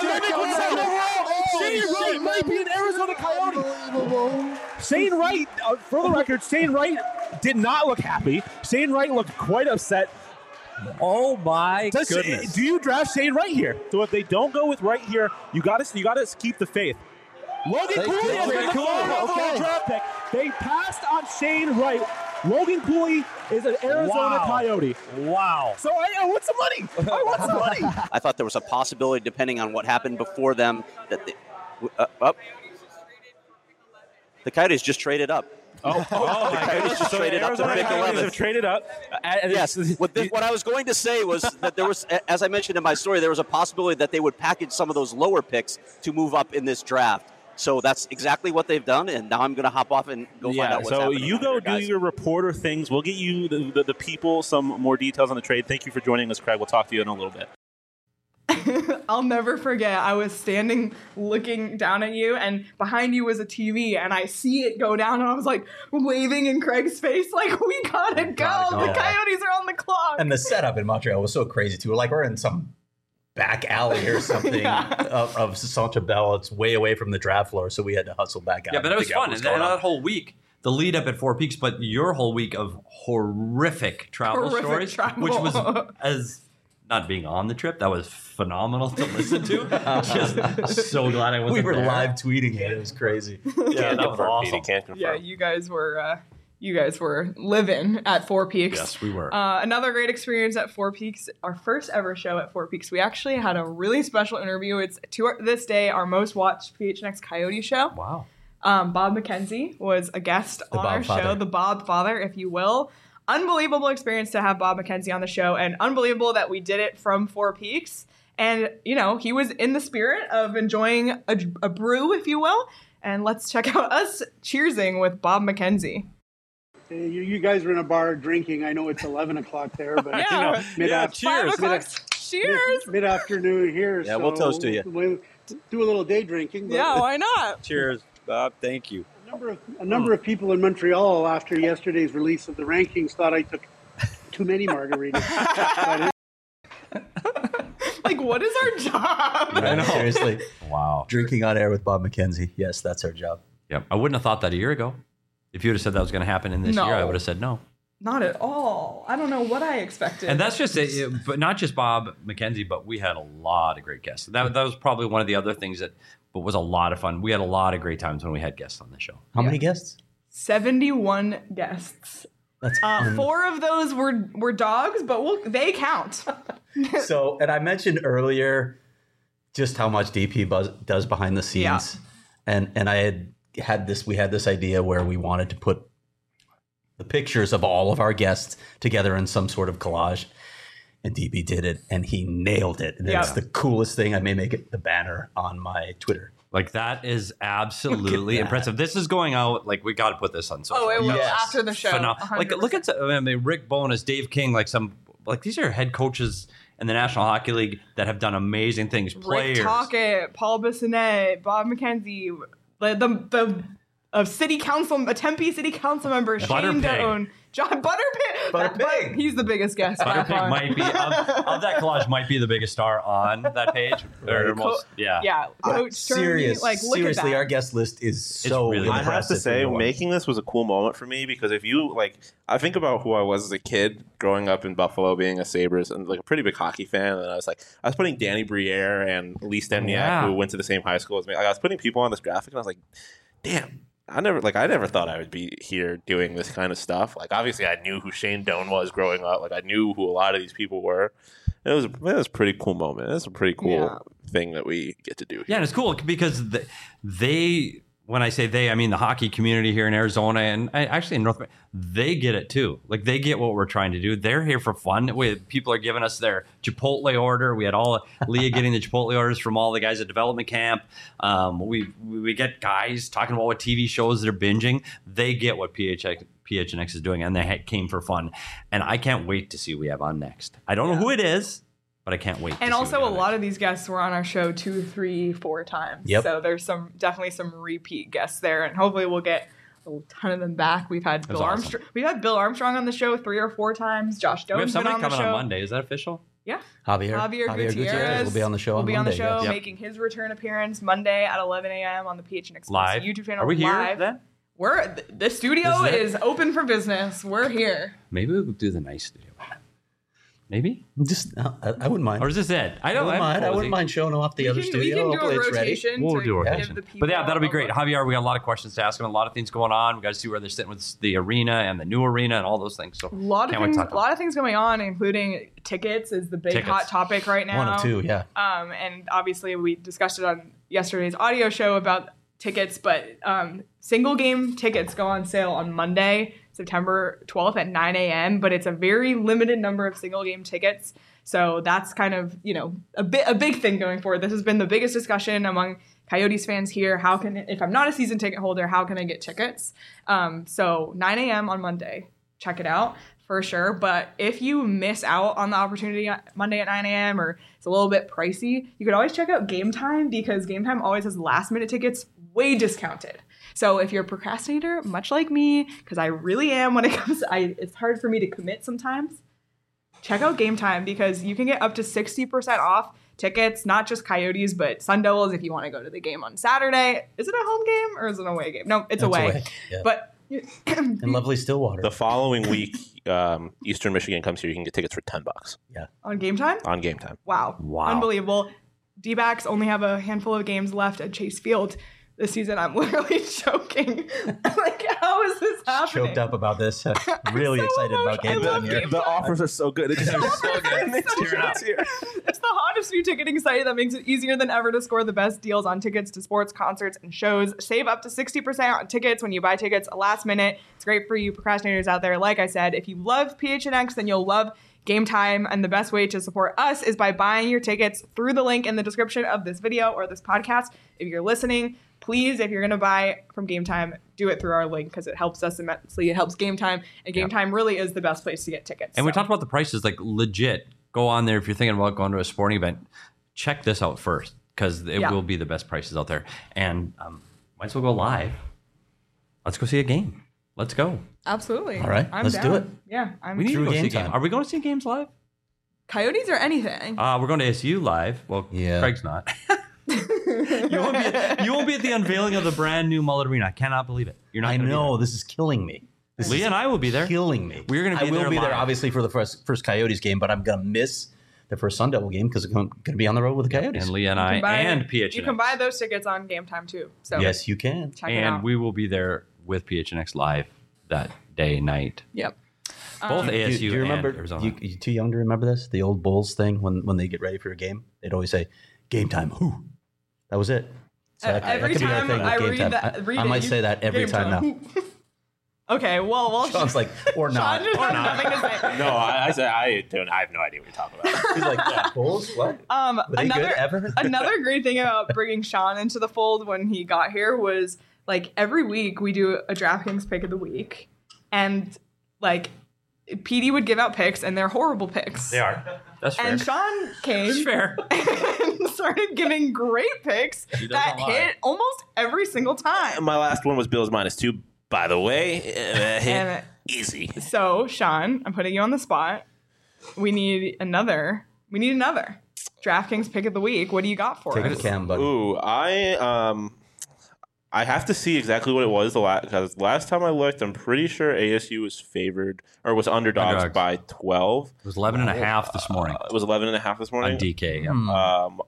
Shane Wright might be an Arizona Coyote. Shane Wright, uh, for the record, Shane Wright did not look happy. Shane Wright looked quite upset. Oh my Does- goodness. Do you draft Shane Wright here? So if they don't go with Wright here, you got to you got to keep the faith. Logan They Cooley did. has been the Cooley, overall okay. draft pick. They passed on Shane Wright. Logan Cooley is an Arizona Wow. Coyote. Wow. So I, I want some money. I want some money. I thought there was a possibility, depending on what happened before them, that they, uh, up. The Coyotes just traded up. Oh, oh The my Coyotes goodness. just So traded up to Arizona pick Coyotes eleven. have traded up. Uh, and Yes. it's- What, this, what I was going to say was that there was, as I mentioned in my story, there was a possibility that they would package some of those lower picks to move up in this draft. So that's exactly what they've done, and now I'm going to hop off and go find yeah, out what's so happening. you out go there, do guys. your reporter things. We'll get you, the, the, the people, some more details on the trade. Thank you for joining us, Craig. We'll talk to you in a little bit. I'll never forget. I was standing looking down at you, and behind you was a T V, and I see it go down, and I was like waving in Craig's face, like, we gotta go. gotta go. The Coyotes are on the clock. And the setup in Montreal was so crazy too. Like we're in some back alley or something Yeah. of, of Centre Bell. It's way away from the draft floor, so we had to hustle back out. Yeah, but and it was figure out fun. what's And going that on. whole week, the lead up at Four Peaks, but your whole week of horrific travel Horrific stories, travel. which was as not being on the trip, that was phenomenal to listen to. Just so glad I wasn't we were there. live tweeting it. It was crazy. Yeah, that was awesome. Can't confirm. Yeah, you guys were uh, You guys were living at Four Peaks. Yes, we were. Uh, another great experience at Four Peaks. Our first ever show at Four Peaks. We actually had a really special interview. It's to our, this day our most watched P H N X Coyote show. Wow. Um, Bob McKenzie was a guest The on Bob our father. show, the Bob Father, if you will. Unbelievable experience to have Bob McKenzie on the show, and unbelievable that we did it from Four Peaks. And, you know, he was in the spirit of enjoying a, a brew, if you will. And let's check out us cheersing with Bob McKenzie. Hey, You, you guys are in a bar drinking. I know it's eleven o'clock there, but Yeah. you know, mid Yeah, after five o'clock. Cheers. mid afternoon here. Yeah, we'll toast to you. We'll do a little day drinking. but Yeah, why not? Cheers, Bob. Thank you. A number of a number of people in Montreal after yesterday's release of the rankings thought I took too many margaritas. Like, what is our job? Right, seriously. Wow. Drinking on air with Bob McKenzie. Yes, that's our job. Yep. I wouldn't have thought that a year ago. If you would have said that was going to happen in this No. year, I would have said no. Not at all. I don't know what I expected. And that's just it, but not just Bob McKenzie, but we had a lot of great guests. That, that was probably one of the other things that but was a lot of fun. We had a lot of great times when we had guests on the show. How many guests? seventy-one guests. That's Uh, un- four of those were were dogs, but we'll, they count. So, and I mentioned earlier just how much D P buzz does behind the scenes. Yeah. And and I had had this, we had this idea where we wanted to put the pictures of all of our guests together in some sort of collage. And D P did it, and he nailed it. And Yeah. it's the coolest thing. I may make it the banner on my Twitter. Like that is absolutely that. impressive. This is going out. Like we got to put this on social. Oh, it will media. after the show. Phenom- one hundred Like look at I mean Rick Bowness, Dave King, like some like these are head coaches in the National Hockey League that have done amazing things. Players. Rick Tocchet, Paul Bissonnette, Bob McKenzie, the the, the of city council, a Tempe city council member, Shane Butterpig. Doan, John Butterpig. Butterpig. He's the biggest guest. by Butterpig far. might be of, of that collage might be the biggest star on that page. Or Right. most, yeah. Yeah, Coach Serious, Sterney, like look seriously, at that. our guest list is so really I have to impressive. say, everyone. making this was a cool moment for me because if you like, I think about who I was as a kid growing up in Buffalo, being a Sabres and like a pretty big hockey fan, and I was like, I was putting Danny Briere and Lee Stempniak, Yeah. who went to the same high school as me. Like, I was putting people on this graphic, and I was like, damn. I never like I never thought I would be here doing this kind of stuff. Like obviously I knew who Shane Doan was growing up. Like I knew who a lot of these people were. It was it was a pretty cool moment. It was a pretty cool Yeah. thing that we get to do. Yeah, and it's cool because they, they, when I say they, I mean the hockey community here in Arizona and I, actually in North America, they get it too. Like they get what we're trying to do. They're here for fun. We, people are giving us their Chipotle order. We had all Leah getting the Chipotle orders from all the guys at development camp. Um, we we get guys talking about what T V shows they're binging. They get what P H X, P H N X is doing, and they ha- came for fun. And I can't wait to see who we have on next. I don't know who it is, but I can't wait. And to see also, who a we have lot of these guests were on our show two, three, four times. Yep. So there's some definitely some repeat guests there, and hopefully we'll get a ton of them back. We've had Bill awesome. Armstrong. We've had Bill Armstrong on the show three or four times. Josh We have Doan's been somebody on the coming show. on Monday. Is that official? Yeah. Javier, Javier, Javier Gutierrez, will be on the show will on be on the Monday, show, yes. Yep. making his return appearance Monday at eleven a.m. on the P H N X Live. YouTube channel. Are we here live. then? We're th- the studio Is that- is open for business. We're here. Maybe we'll do the nice studio. Maybe? Just, uh, I, I wouldn't mind. Or is this it? I I don't wouldn't mind. I cozy. wouldn't mind showing off the We other can- we studio. can do a Hopefully it's ready. rotation We'll to do a give rotation. the people But yeah, that'll be a great. look. Javier, we got a lot of questions to ask him. A lot of things going on. We got to see where they're sitting with the arena and the new arena and all those things. So A lot of can't wait to things, talk a about lot of things going on, including tickets is the big Tickets. hot topic right now. One or two, yeah. Um, and obviously we discussed it on yesterday's audio show about tickets, but um, single game tickets go on sale on Monday, September twelfth at nine a.m. But it's a very limited number of single game tickets. So that's kind of, you know, a bit a big thing going forward. This has been the biggest discussion among Coyotes fans here. How can, if I'm not a season ticket holder, how can I get tickets? Um, so nine a.m. on Monday, check it out for sure. But if you miss out on the opportunity on Monday at nine a.m. or it's a little bit pricey, you could always check out Game Time because Game Time always has last minute tickets way discounted. So if you're a procrastinator, much like me, because I really am when it comes to, I, it's hard for me to commit sometimes. Check out Game Time because you can get up to sixty percent off tickets, not just Coyotes, but Sun Devils if you want to go to the game on Saturday. Is it a home game or is it an away game? No, it's It's away. away, yeah. But In lovely Stillwater. The following week, um, Eastern Michigan comes here. You can get tickets for ten bucks. Yeah. on Game Time? On Game Time. Wow. Wow. Unbelievable. D-backs only have a handful of games left at Chase Field. this season. I'm literally choking. Like, how is this happening? Choked up about this. Really so excited emotional. about game time here. The, the offers are so good. It just is so good. It's, so good. It's the hottest new ticketing site that makes it easier than ever to score the best deals on tickets to sports, concerts, and shows. Save up to sixty percent on tickets when you buy tickets last minute. It's great for you procrastinators out there. Like I said, if you love P H N X, then you'll love Game Time, and the best way to support us is by buying your tickets through the link in the description of this video or this podcast. If you're listening, please, if you're going to buy from Game Time, do it through our link because it helps us immensely. It helps Game Time, and Game yep. Time really is the best place to get tickets. And so. we talked about the prices, like legit. Go on there if you're thinking about going to a sporting event. Check this out first because it yeah. will be the best prices out there. And um, might as well go live. Let's go see a game. Let's go. Absolutely. All right, I'm let's down. do it. Yeah, I'm we need to go game see a time. game. Are we going to see games live? Coyotes or anything? Uh, we're going to A S U live. Well, yeah. Craig's not. you, won't be at, you won't be at the unveiling of the brand new Mullet Arena. I cannot believe it. You're not. I know. This is killing me. This Leah and I will be there. Killing me. We're going to be I will there be live. there, obviously, for the first first Coyotes game, but I'm going to miss the first Sun Devil game because I'm going to be on the road with the Coyotes. And Leah and I buy, and P H N X. You can buy those tickets on Game Time too. So yes, you can. Check and it out. we will be there with P H N X live that day, night. Yep. Both um, A S U do, do you remember, and Arizona. You, you too young to remember this? The old Bulls thing when, when they get ready for a game, they'd always say, "Game time." Who? That was it. So that, every that could time be our thing with I game read time. that, read I, I might it, say that every time, time now. Okay, well, well, Sean's like, or not, Sean just or has not. nothing to say. No, I, I said I don't. I have no idea what you're talking about. He's like, yeah, Bulls? What? Um, Were they another good ever? another great thing about bringing Sean into the fold when he got here was like every week we do a DraftKings pick of the week, and like P D would give out picks, and they're horrible picks. They are. That's fair. And Sean came That's fair. and started giving great picks that lie. hit almost every single time. My last one was Bills minus two. By the way, uh, hit And easy. So, Sean, I'm putting you on the spot. We need another. We need another DraftKings pick of the week. What do you got for Take us? a cam, buddy. Ooh, I um, I have to see exactly what it was the last because last time I looked, I'm pretty sure A S U was favored or was underdogs, Underdogs. by twelve. It was eleven and a half this morning. Uh, it was eleven and a half this morning on D K. Yeah. Hmm. Um,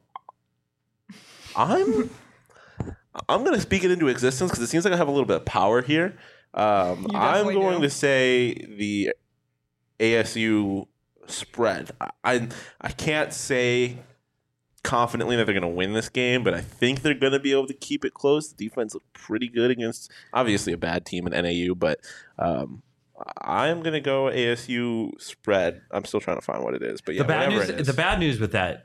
I'm I'm gonna speak it into existence because it seems like I have a little bit of power here. Um, You I'm definitely going do. to say the A S U spread. I I, I can't say confidently that they're going to win this game, but I think they're going to be able to keep it close. The defense looked pretty good against obviously a bad team in N A U, but um, I'm going to go A S U spread. I'm still trying to find what it is, but yeah, the bad whatever news. it is. The bad news with that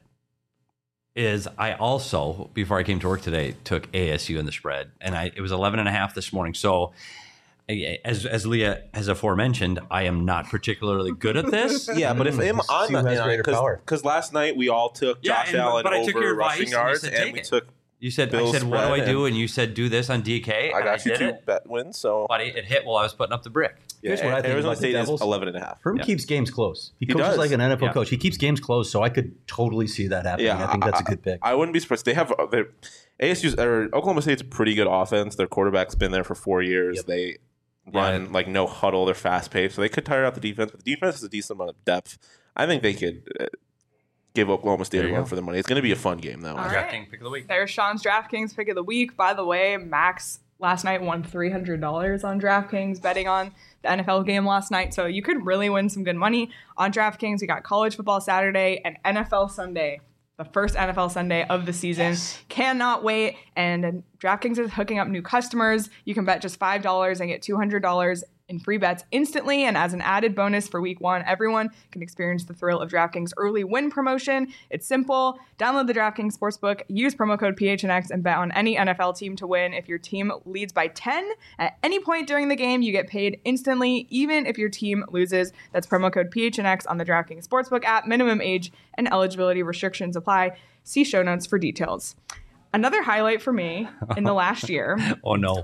is I also, before I came to work today, took A S U in the spread, and I it was eleven and a half this morning. So, I- as as Leah has aforementioned, I am not particularly good at this. Yeah, but if I'm, I'm Sue has greater power. because last night we all took Yeah, Josh and- Allen but I took over your advice rushing and you yards, said and take we it. took. You said, Bill's I said, what do I spread, do? and And you said, do this on D K. I and got you did two it. bet wins, so Buddy, it hit while I was putting up the brick. Here's yeah, what I think Arizona about the State is Devils. eleven and a half. Herm Yeah. keeps games close. He, He coaches does. like an N F L Yeah. coach. He keeps games close, so I could totally see that happening. Yeah, I think that's a good pick. I, I wouldn't be surprised. They have their A S U's or Oklahoma State's a pretty good offense. Their quarterback's been there for four years. Yep. They run Yeah. like no huddle. They're fast paced, so they could tire out the defense. But the defense has a decent amount of depth. I think they could uh, give Oklahoma State There a you run go. for the money. It's going to be a fun game though. All right. Drafting pick of the week. There's Sean's DraftKings pick of the week. By the way, Max last night won three hundred dollars on DraftKings betting on the N F L game last night. So you could really win some good money on DraftKings. We got college football Saturday and N F L Sunday. The first N F L Sunday of the season. Cannot wait. And DraftKings is hooking up new customers. You can bet just five dollars and get two hundred dollars in free bets instantly. And as an added bonus for week one, everyone can experience the thrill of DraftKings early win promotion. It's simple. Download the DraftKings Sportsbook, use promo code P H N X, and bet on any N F L team to win. If your team leads by ten at any point during the game, you get paid instantly, even if your team loses. That's promo code P H N X on the DraftKings Sportsbook app. Minimum age and eligibility restrictions apply. See show notes for details. Another highlight for me in the last year Oh, no.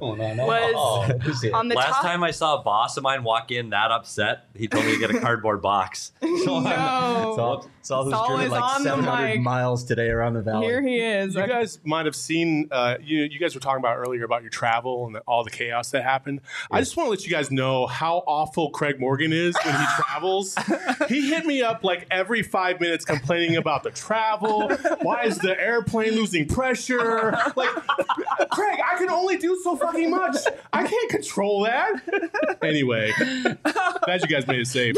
was on the Last top. time I saw a boss of mine walk in that upset, he told me to get a cardboard box. No. Saul, Saul who's Saul driven is like on the seven hundred mic. miles today around the valley. Here he is. You guys might have seen, uh, you, you guys were talking about earlier about your travel and the, all the chaos that happened. I just want to let you guys know how awful Craig Morgan is when he travels. He hit me up like every five minutes complaining about the travel. Why is the airplane losing pressure? here. Like, Craig, I can only do so fucking much. I can't control that. Anyway, glad you guys made it safe.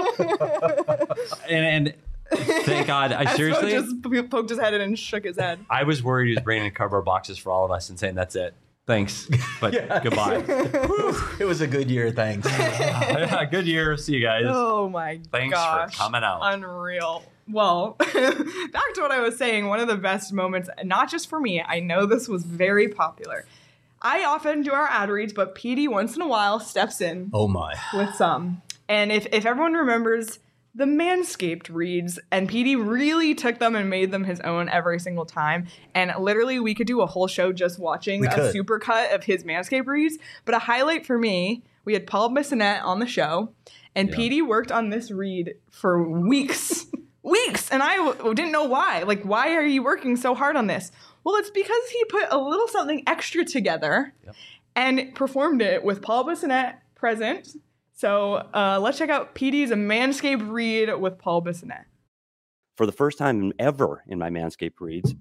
and, and thank God, I Espo seriously just poked his head in and shook his head. I was worried he was bringing in cardboard boxes for all of us and saying that's it. Thanks, but Yeah. goodbye. It was a good year. Thanks. Yeah, good year. See you guys. Oh my Thanks gosh. for coming out. Unreal. Well, back to what I was saying, one of the best moments, not just for me, I know this was very popular. I often do our ad reads, but P D once in a while steps in Oh my. with some. And if, if everyone remembers the Manscaped reads, and P D really took them and made them his own every single time. And literally, we could do a whole show just watching We a could. supercut of his Manscaped reads. But a highlight for me, we had Paul Bissonnette on the show, and Yeah. P D worked on this read for weeks. Weeks! And I w- didn't know why. Like, why are you working so hard on this? Well, it's because he put a little something extra together Yep. and performed it with Paul Bissonnette present. So uh, let's check out P D's Manscaped read with Paul Bissonnette. For the first time ever in my Manscaped reads,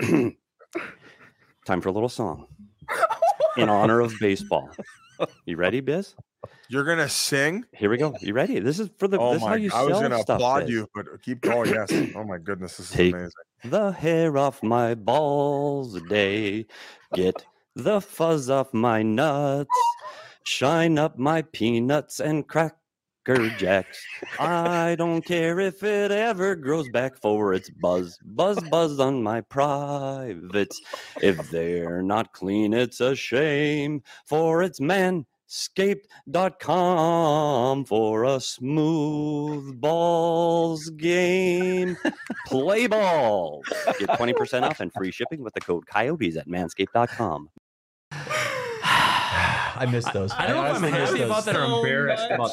time for a little song in honor of baseball. You ready, Biz? You're gonna sing? Here we go. You ready? This is for the. Oh this is how my! you I was sell gonna stuff, applaud Biz. you, but keep going. Yes. Oh my goodness, this is Take amazing. the hair off my balls a day. Get the fuzz off my nuts. Shine up my peanuts and cracker jacks. I don't care if it ever grows back, for it's buzz, buzz, buzz on my privates. If they're not clean, it's a shame, for it's manscaped dot com for a smooth balls game. Play balls. Get twenty percent off and free shipping with the code Coyotes at manscaped dot com. I missed those. I don't know if I'm honestly missed happy about those. that or So embarrassed much. about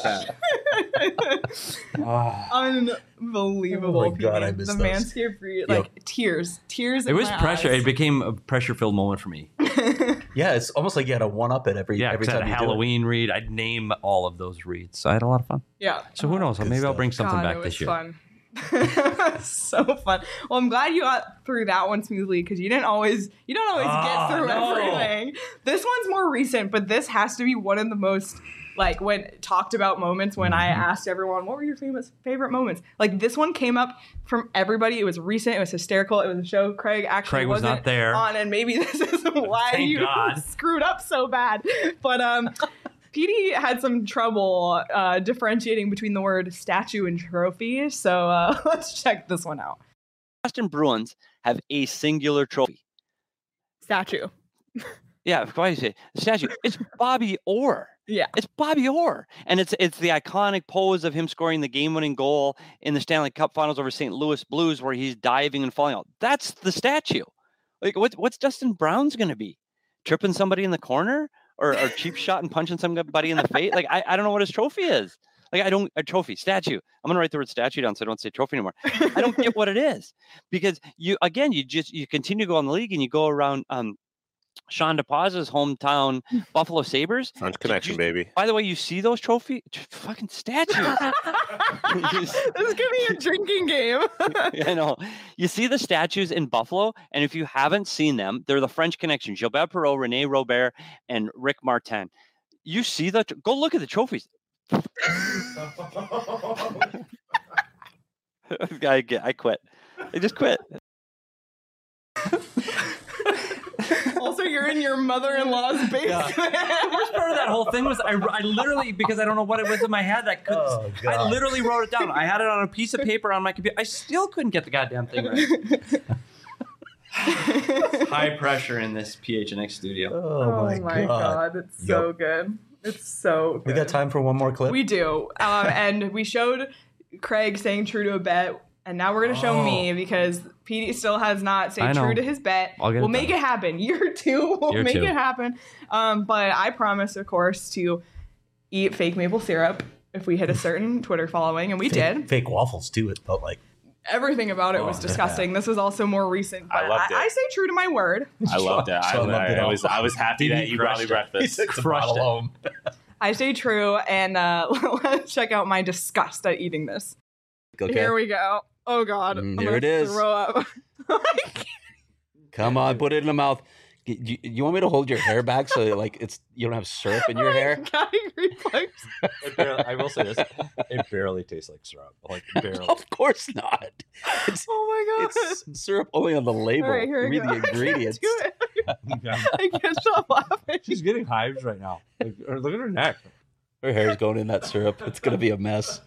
that. Unbelievable. Oh my God, I P D. missed the those. Manscaped read, like tears, tears. It in was my pressure. eyes. It became a pressure-filled moment for me. Yeah, it's almost like you had to one up it every Yeah, every because I time had a you Halloween read. I'd name all of those reads. So I had a lot of fun. Yeah. So who knows? Good Maybe I'll stuff. bring something God, back it this was year. fun. So fun. Well, I'm glad you got through that one smoothly because you didn't always you don't always Ah, get through no. everything. This one's more recent, but this has to be one of the most like when talked about moments when I asked everyone what were your famous favorite moments. Like this one came up from everybody. It was recent. It was hysterical. It was a show Craig actually Craig was wasn't not there. on, and maybe this is why Thank you God. screwed up so bad. But um. P D had some trouble uh, differentiating between the word statue and trophy, so uh, let's check this one out. Boston Bruins have a singular trophy. Statue. Yeah, why do you say statue? It's Bobby Orr. Yeah. It's Bobby Orr. And it's it's the iconic pose of him scoring the game-winning goal in the Stanley Cup Finals over Saint Louis Blues where he's diving and falling out. That's the statue. Like, what, what's Dustin Brown's going to be? Tripping somebody in the corner? Or, or cheap shot and punching somebody in the face? Like, I, I don't know what his trophy is. Like, I don't, a trophy, statue. I'm going to write the word statue down so I don't say trophy anymore. I don't get what it is. Because you, again, you just, you continue to go on the league and you go around um, Sean DePaz's hometown Buffalo Sabres. French connection, you, baby. By the way, you see those trophy fucking statues. This is gonna be a drinking game. I know. You see the statues in Buffalo, and if you haven't seen them, they're the French Connection: Gilbert Perreault, Rene Robert, and Rick Martin. You see the go look at the trophies. I get. I quit. I just quit. Also, you're in your mother-in-law's basement. The worst part of that whole thing was I, I literally, because I don't know what it was in my head, I couldn't. Oh, I God. literally wrote it down. I had it on a piece of paper on my computer. I still couldn't get the goddamn thing right. High pressure in this P H N X studio. Oh, my, my God. God, it's so Yup. good. It's so good. We got time for one more clip? We do. Um, and we showed Craig staying true to a bet, and now we're going to show Oh. me because P D still has not I stayed know. true to his bet. I'll get it We'll make done. it happen. Year two, we'll Year make two. it happen. Um, but I promise, of course, to eat fake maple syrup if we hit a certain Twitter following, and we fake, did. Fake waffles, too, it felt like. Everything about it was Oh, disgusting. This was also more recent, but I loved it. I, I stay true to my word. I loved it. I, Sean loved it I all. was I was happy that you brought me crushed it. He breakfast. took the Crushed bottle it. home. I stay true, and uh, let's check out my disgust at eating this. Okay. Here we go. Oh God, Mm, I'm here gonna it is. Throw up. Come on, put it in the mouth. You, you want me to hold your hair back so like it's you don't have syrup in your hair? It barely, I will say this: it barely tastes like syrup. Like barely. Of course not. It's, oh my god! It's syrup only on the label. All right, here we Read go. the ingredients. I can't do it. I can't stop laughing. She's getting hives right now. Like, look at her neck. Her hair's going in that syrup. It's gonna be a mess.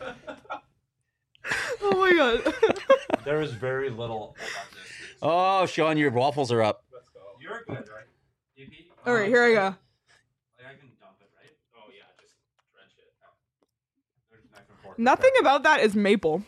Oh my god! There is very little. Oh, Sean, your waffles are up. You're good, right? D P? All right, here I go. Like I can dump it, right? Oh yeah, just drench it. There's knife and fork. Nothing about that is maple.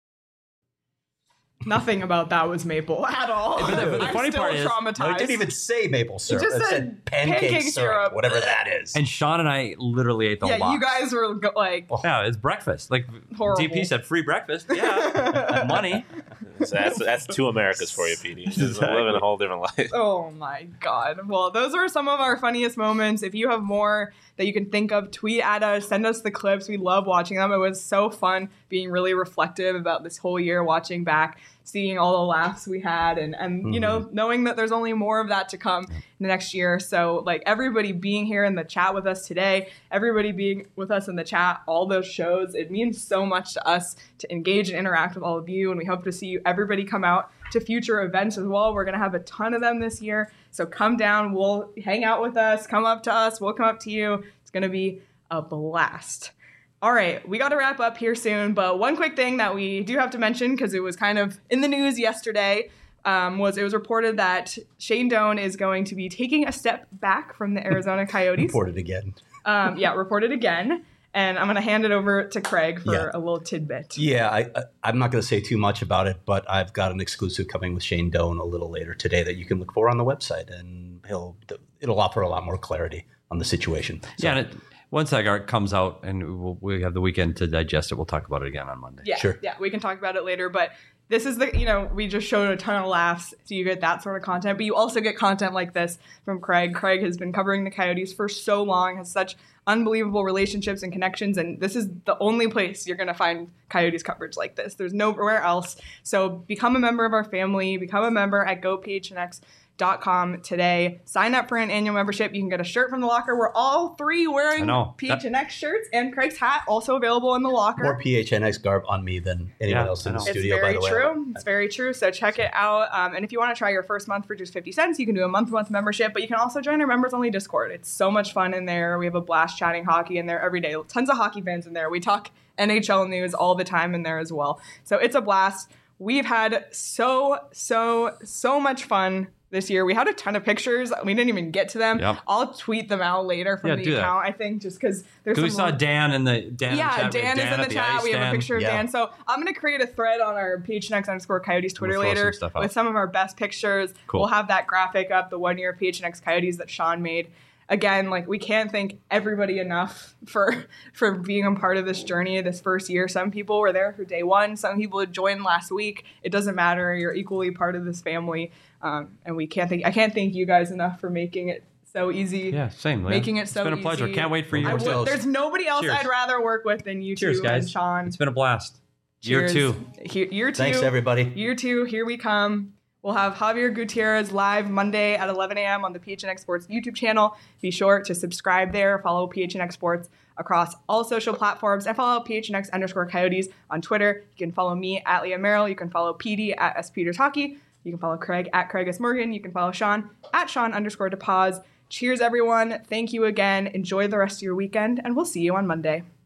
Nothing about that was maple at all. But the, but the I'm funny still part is, traumatized. No, it didn't even say maple syrup. just It said said pancake, pancake syrup, syrup. whatever that is. And Sean and I literally ate the yeah, whole you box. guys were go- like, Yeah, it's breakfast. Like Horrible. D P said, free breakfast. Yeah, money. So that's that's two Americas for you, P D. Just Exactly. living a whole different life. oh my god. Well, those were some of our funniest moments. If you have more that you can think of, tweet at us, send us the clips. We love watching them. It was so fun being really reflective about this whole year, watching back, seeing all the laughs we had, and, and mm-hmm. you know, knowing that there's only more of that to come in the next year. So, like, everybody being here in the chat with us today, everybody being with us in the chat, all those shows, it means so much to us to engage and interact with all of you, and we hope to see you, everybody come out to future events as well. We're going to have a ton of them this year, so come down, we'll hang out with us, come up to us, we'll come up to you. It's going to be a blast. All right, we got to wrap up here soon, but one quick thing that we do have to mention, because it was kind of in the news yesterday, um, was it was reported that Shane Doan is going to be taking a step back from the Arizona Coyotes. Reported again. Um, yeah, reported again. And I'm going to hand it over to Craig for Yeah. a little tidbit. Yeah, I, I, I'm not going to say too much about it, but I've got an exclusive coming with Shane Doan a little later today that you can look for on the website, and he'll it'll offer a lot more clarity on the situation. So, Yeah, and it, once that art comes out and we'll, we have the weekend to digest it, we'll talk about it again on Monday. Yeah, Sure. yeah, we can talk about it later, but this is the, you know, we just showed a ton of laughs, so you get that sort of content, but you also get content like this from Craig. Craig has been covering the Coyotes for so long, has such unbelievable relationships and connections, and this is the only place you're going to find Coyotes coverage like this. There's nowhere else. So become a member of our family, become a member at go p h n x dot com today. Sign up for an annual membership. You can get a shirt from the locker. We're all three wearing I know. P H N X shirts, and Craig's hat also available in the locker. more P H N X garb on me than anyone Yeah, else in I the know. studio, It's by very the way. true. It's very true. So check it out. Um, and if you want to try your first month for just fifty cents, you can do a month-to-month membership. But you can also join our members-only Discord. It's so much fun in there. We have a blast chatting hockey in there every day. Tons of hockey fans in there. We talk N H L news all the time in there as well. So it's a blast. We've had so, so, so much fun this year. We had a ton of pictures. We didn't even get to them. Yep. I'll tweet them out later from Yeah, the do that. account, I think, just because there's Because some we saw Dan in the Dan. yeah, in the chat. We have Dan, is in at the chat. ice We have a stand. picture of Yeah. Dan. So I'm going to create a thread on our P H N X underscore Coyotes Twitter We'll throw later some stuff out. with some of our best pictures. Cool. We'll have that graphic up, the one year P H N X Coyotes that Sean made. Again, like, we can't thank everybody enough for for being a part of this journey this first year. Some people were there for day one. Some people had joined last week. It doesn't matter. You're equally part of this family. Um, and we can't thank I can't thank you guys enough for making it so easy. Yeah, same. Leah. Making it so It's been a pleasure. easy. Can't wait for you. I would, there's nobody else Cheers. I'd rather work with than you Cheers, two guys. and Sean. It's been a blast. Cheers. Year two. He- Year two. Thanks, everybody. Year two, here we come. We'll have Javier Gutierrez live Monday at eleven a.m. on the P H N X Sports YouTube channel. Be sure to subscribe there. Follow P H N X Sports across all social platforms, and follow P H N X underscore Coyotes on Twitter. You can follow me at Leah Merrill. You can follow P D at S Peters Hockey. You can follow Craig at Craig S. Morgan. You can follow Sean at Sean underscore DePaz. Cheers, everyone. Thank you again. Enjoy the rest of your weekend, and we'll see you on Monday.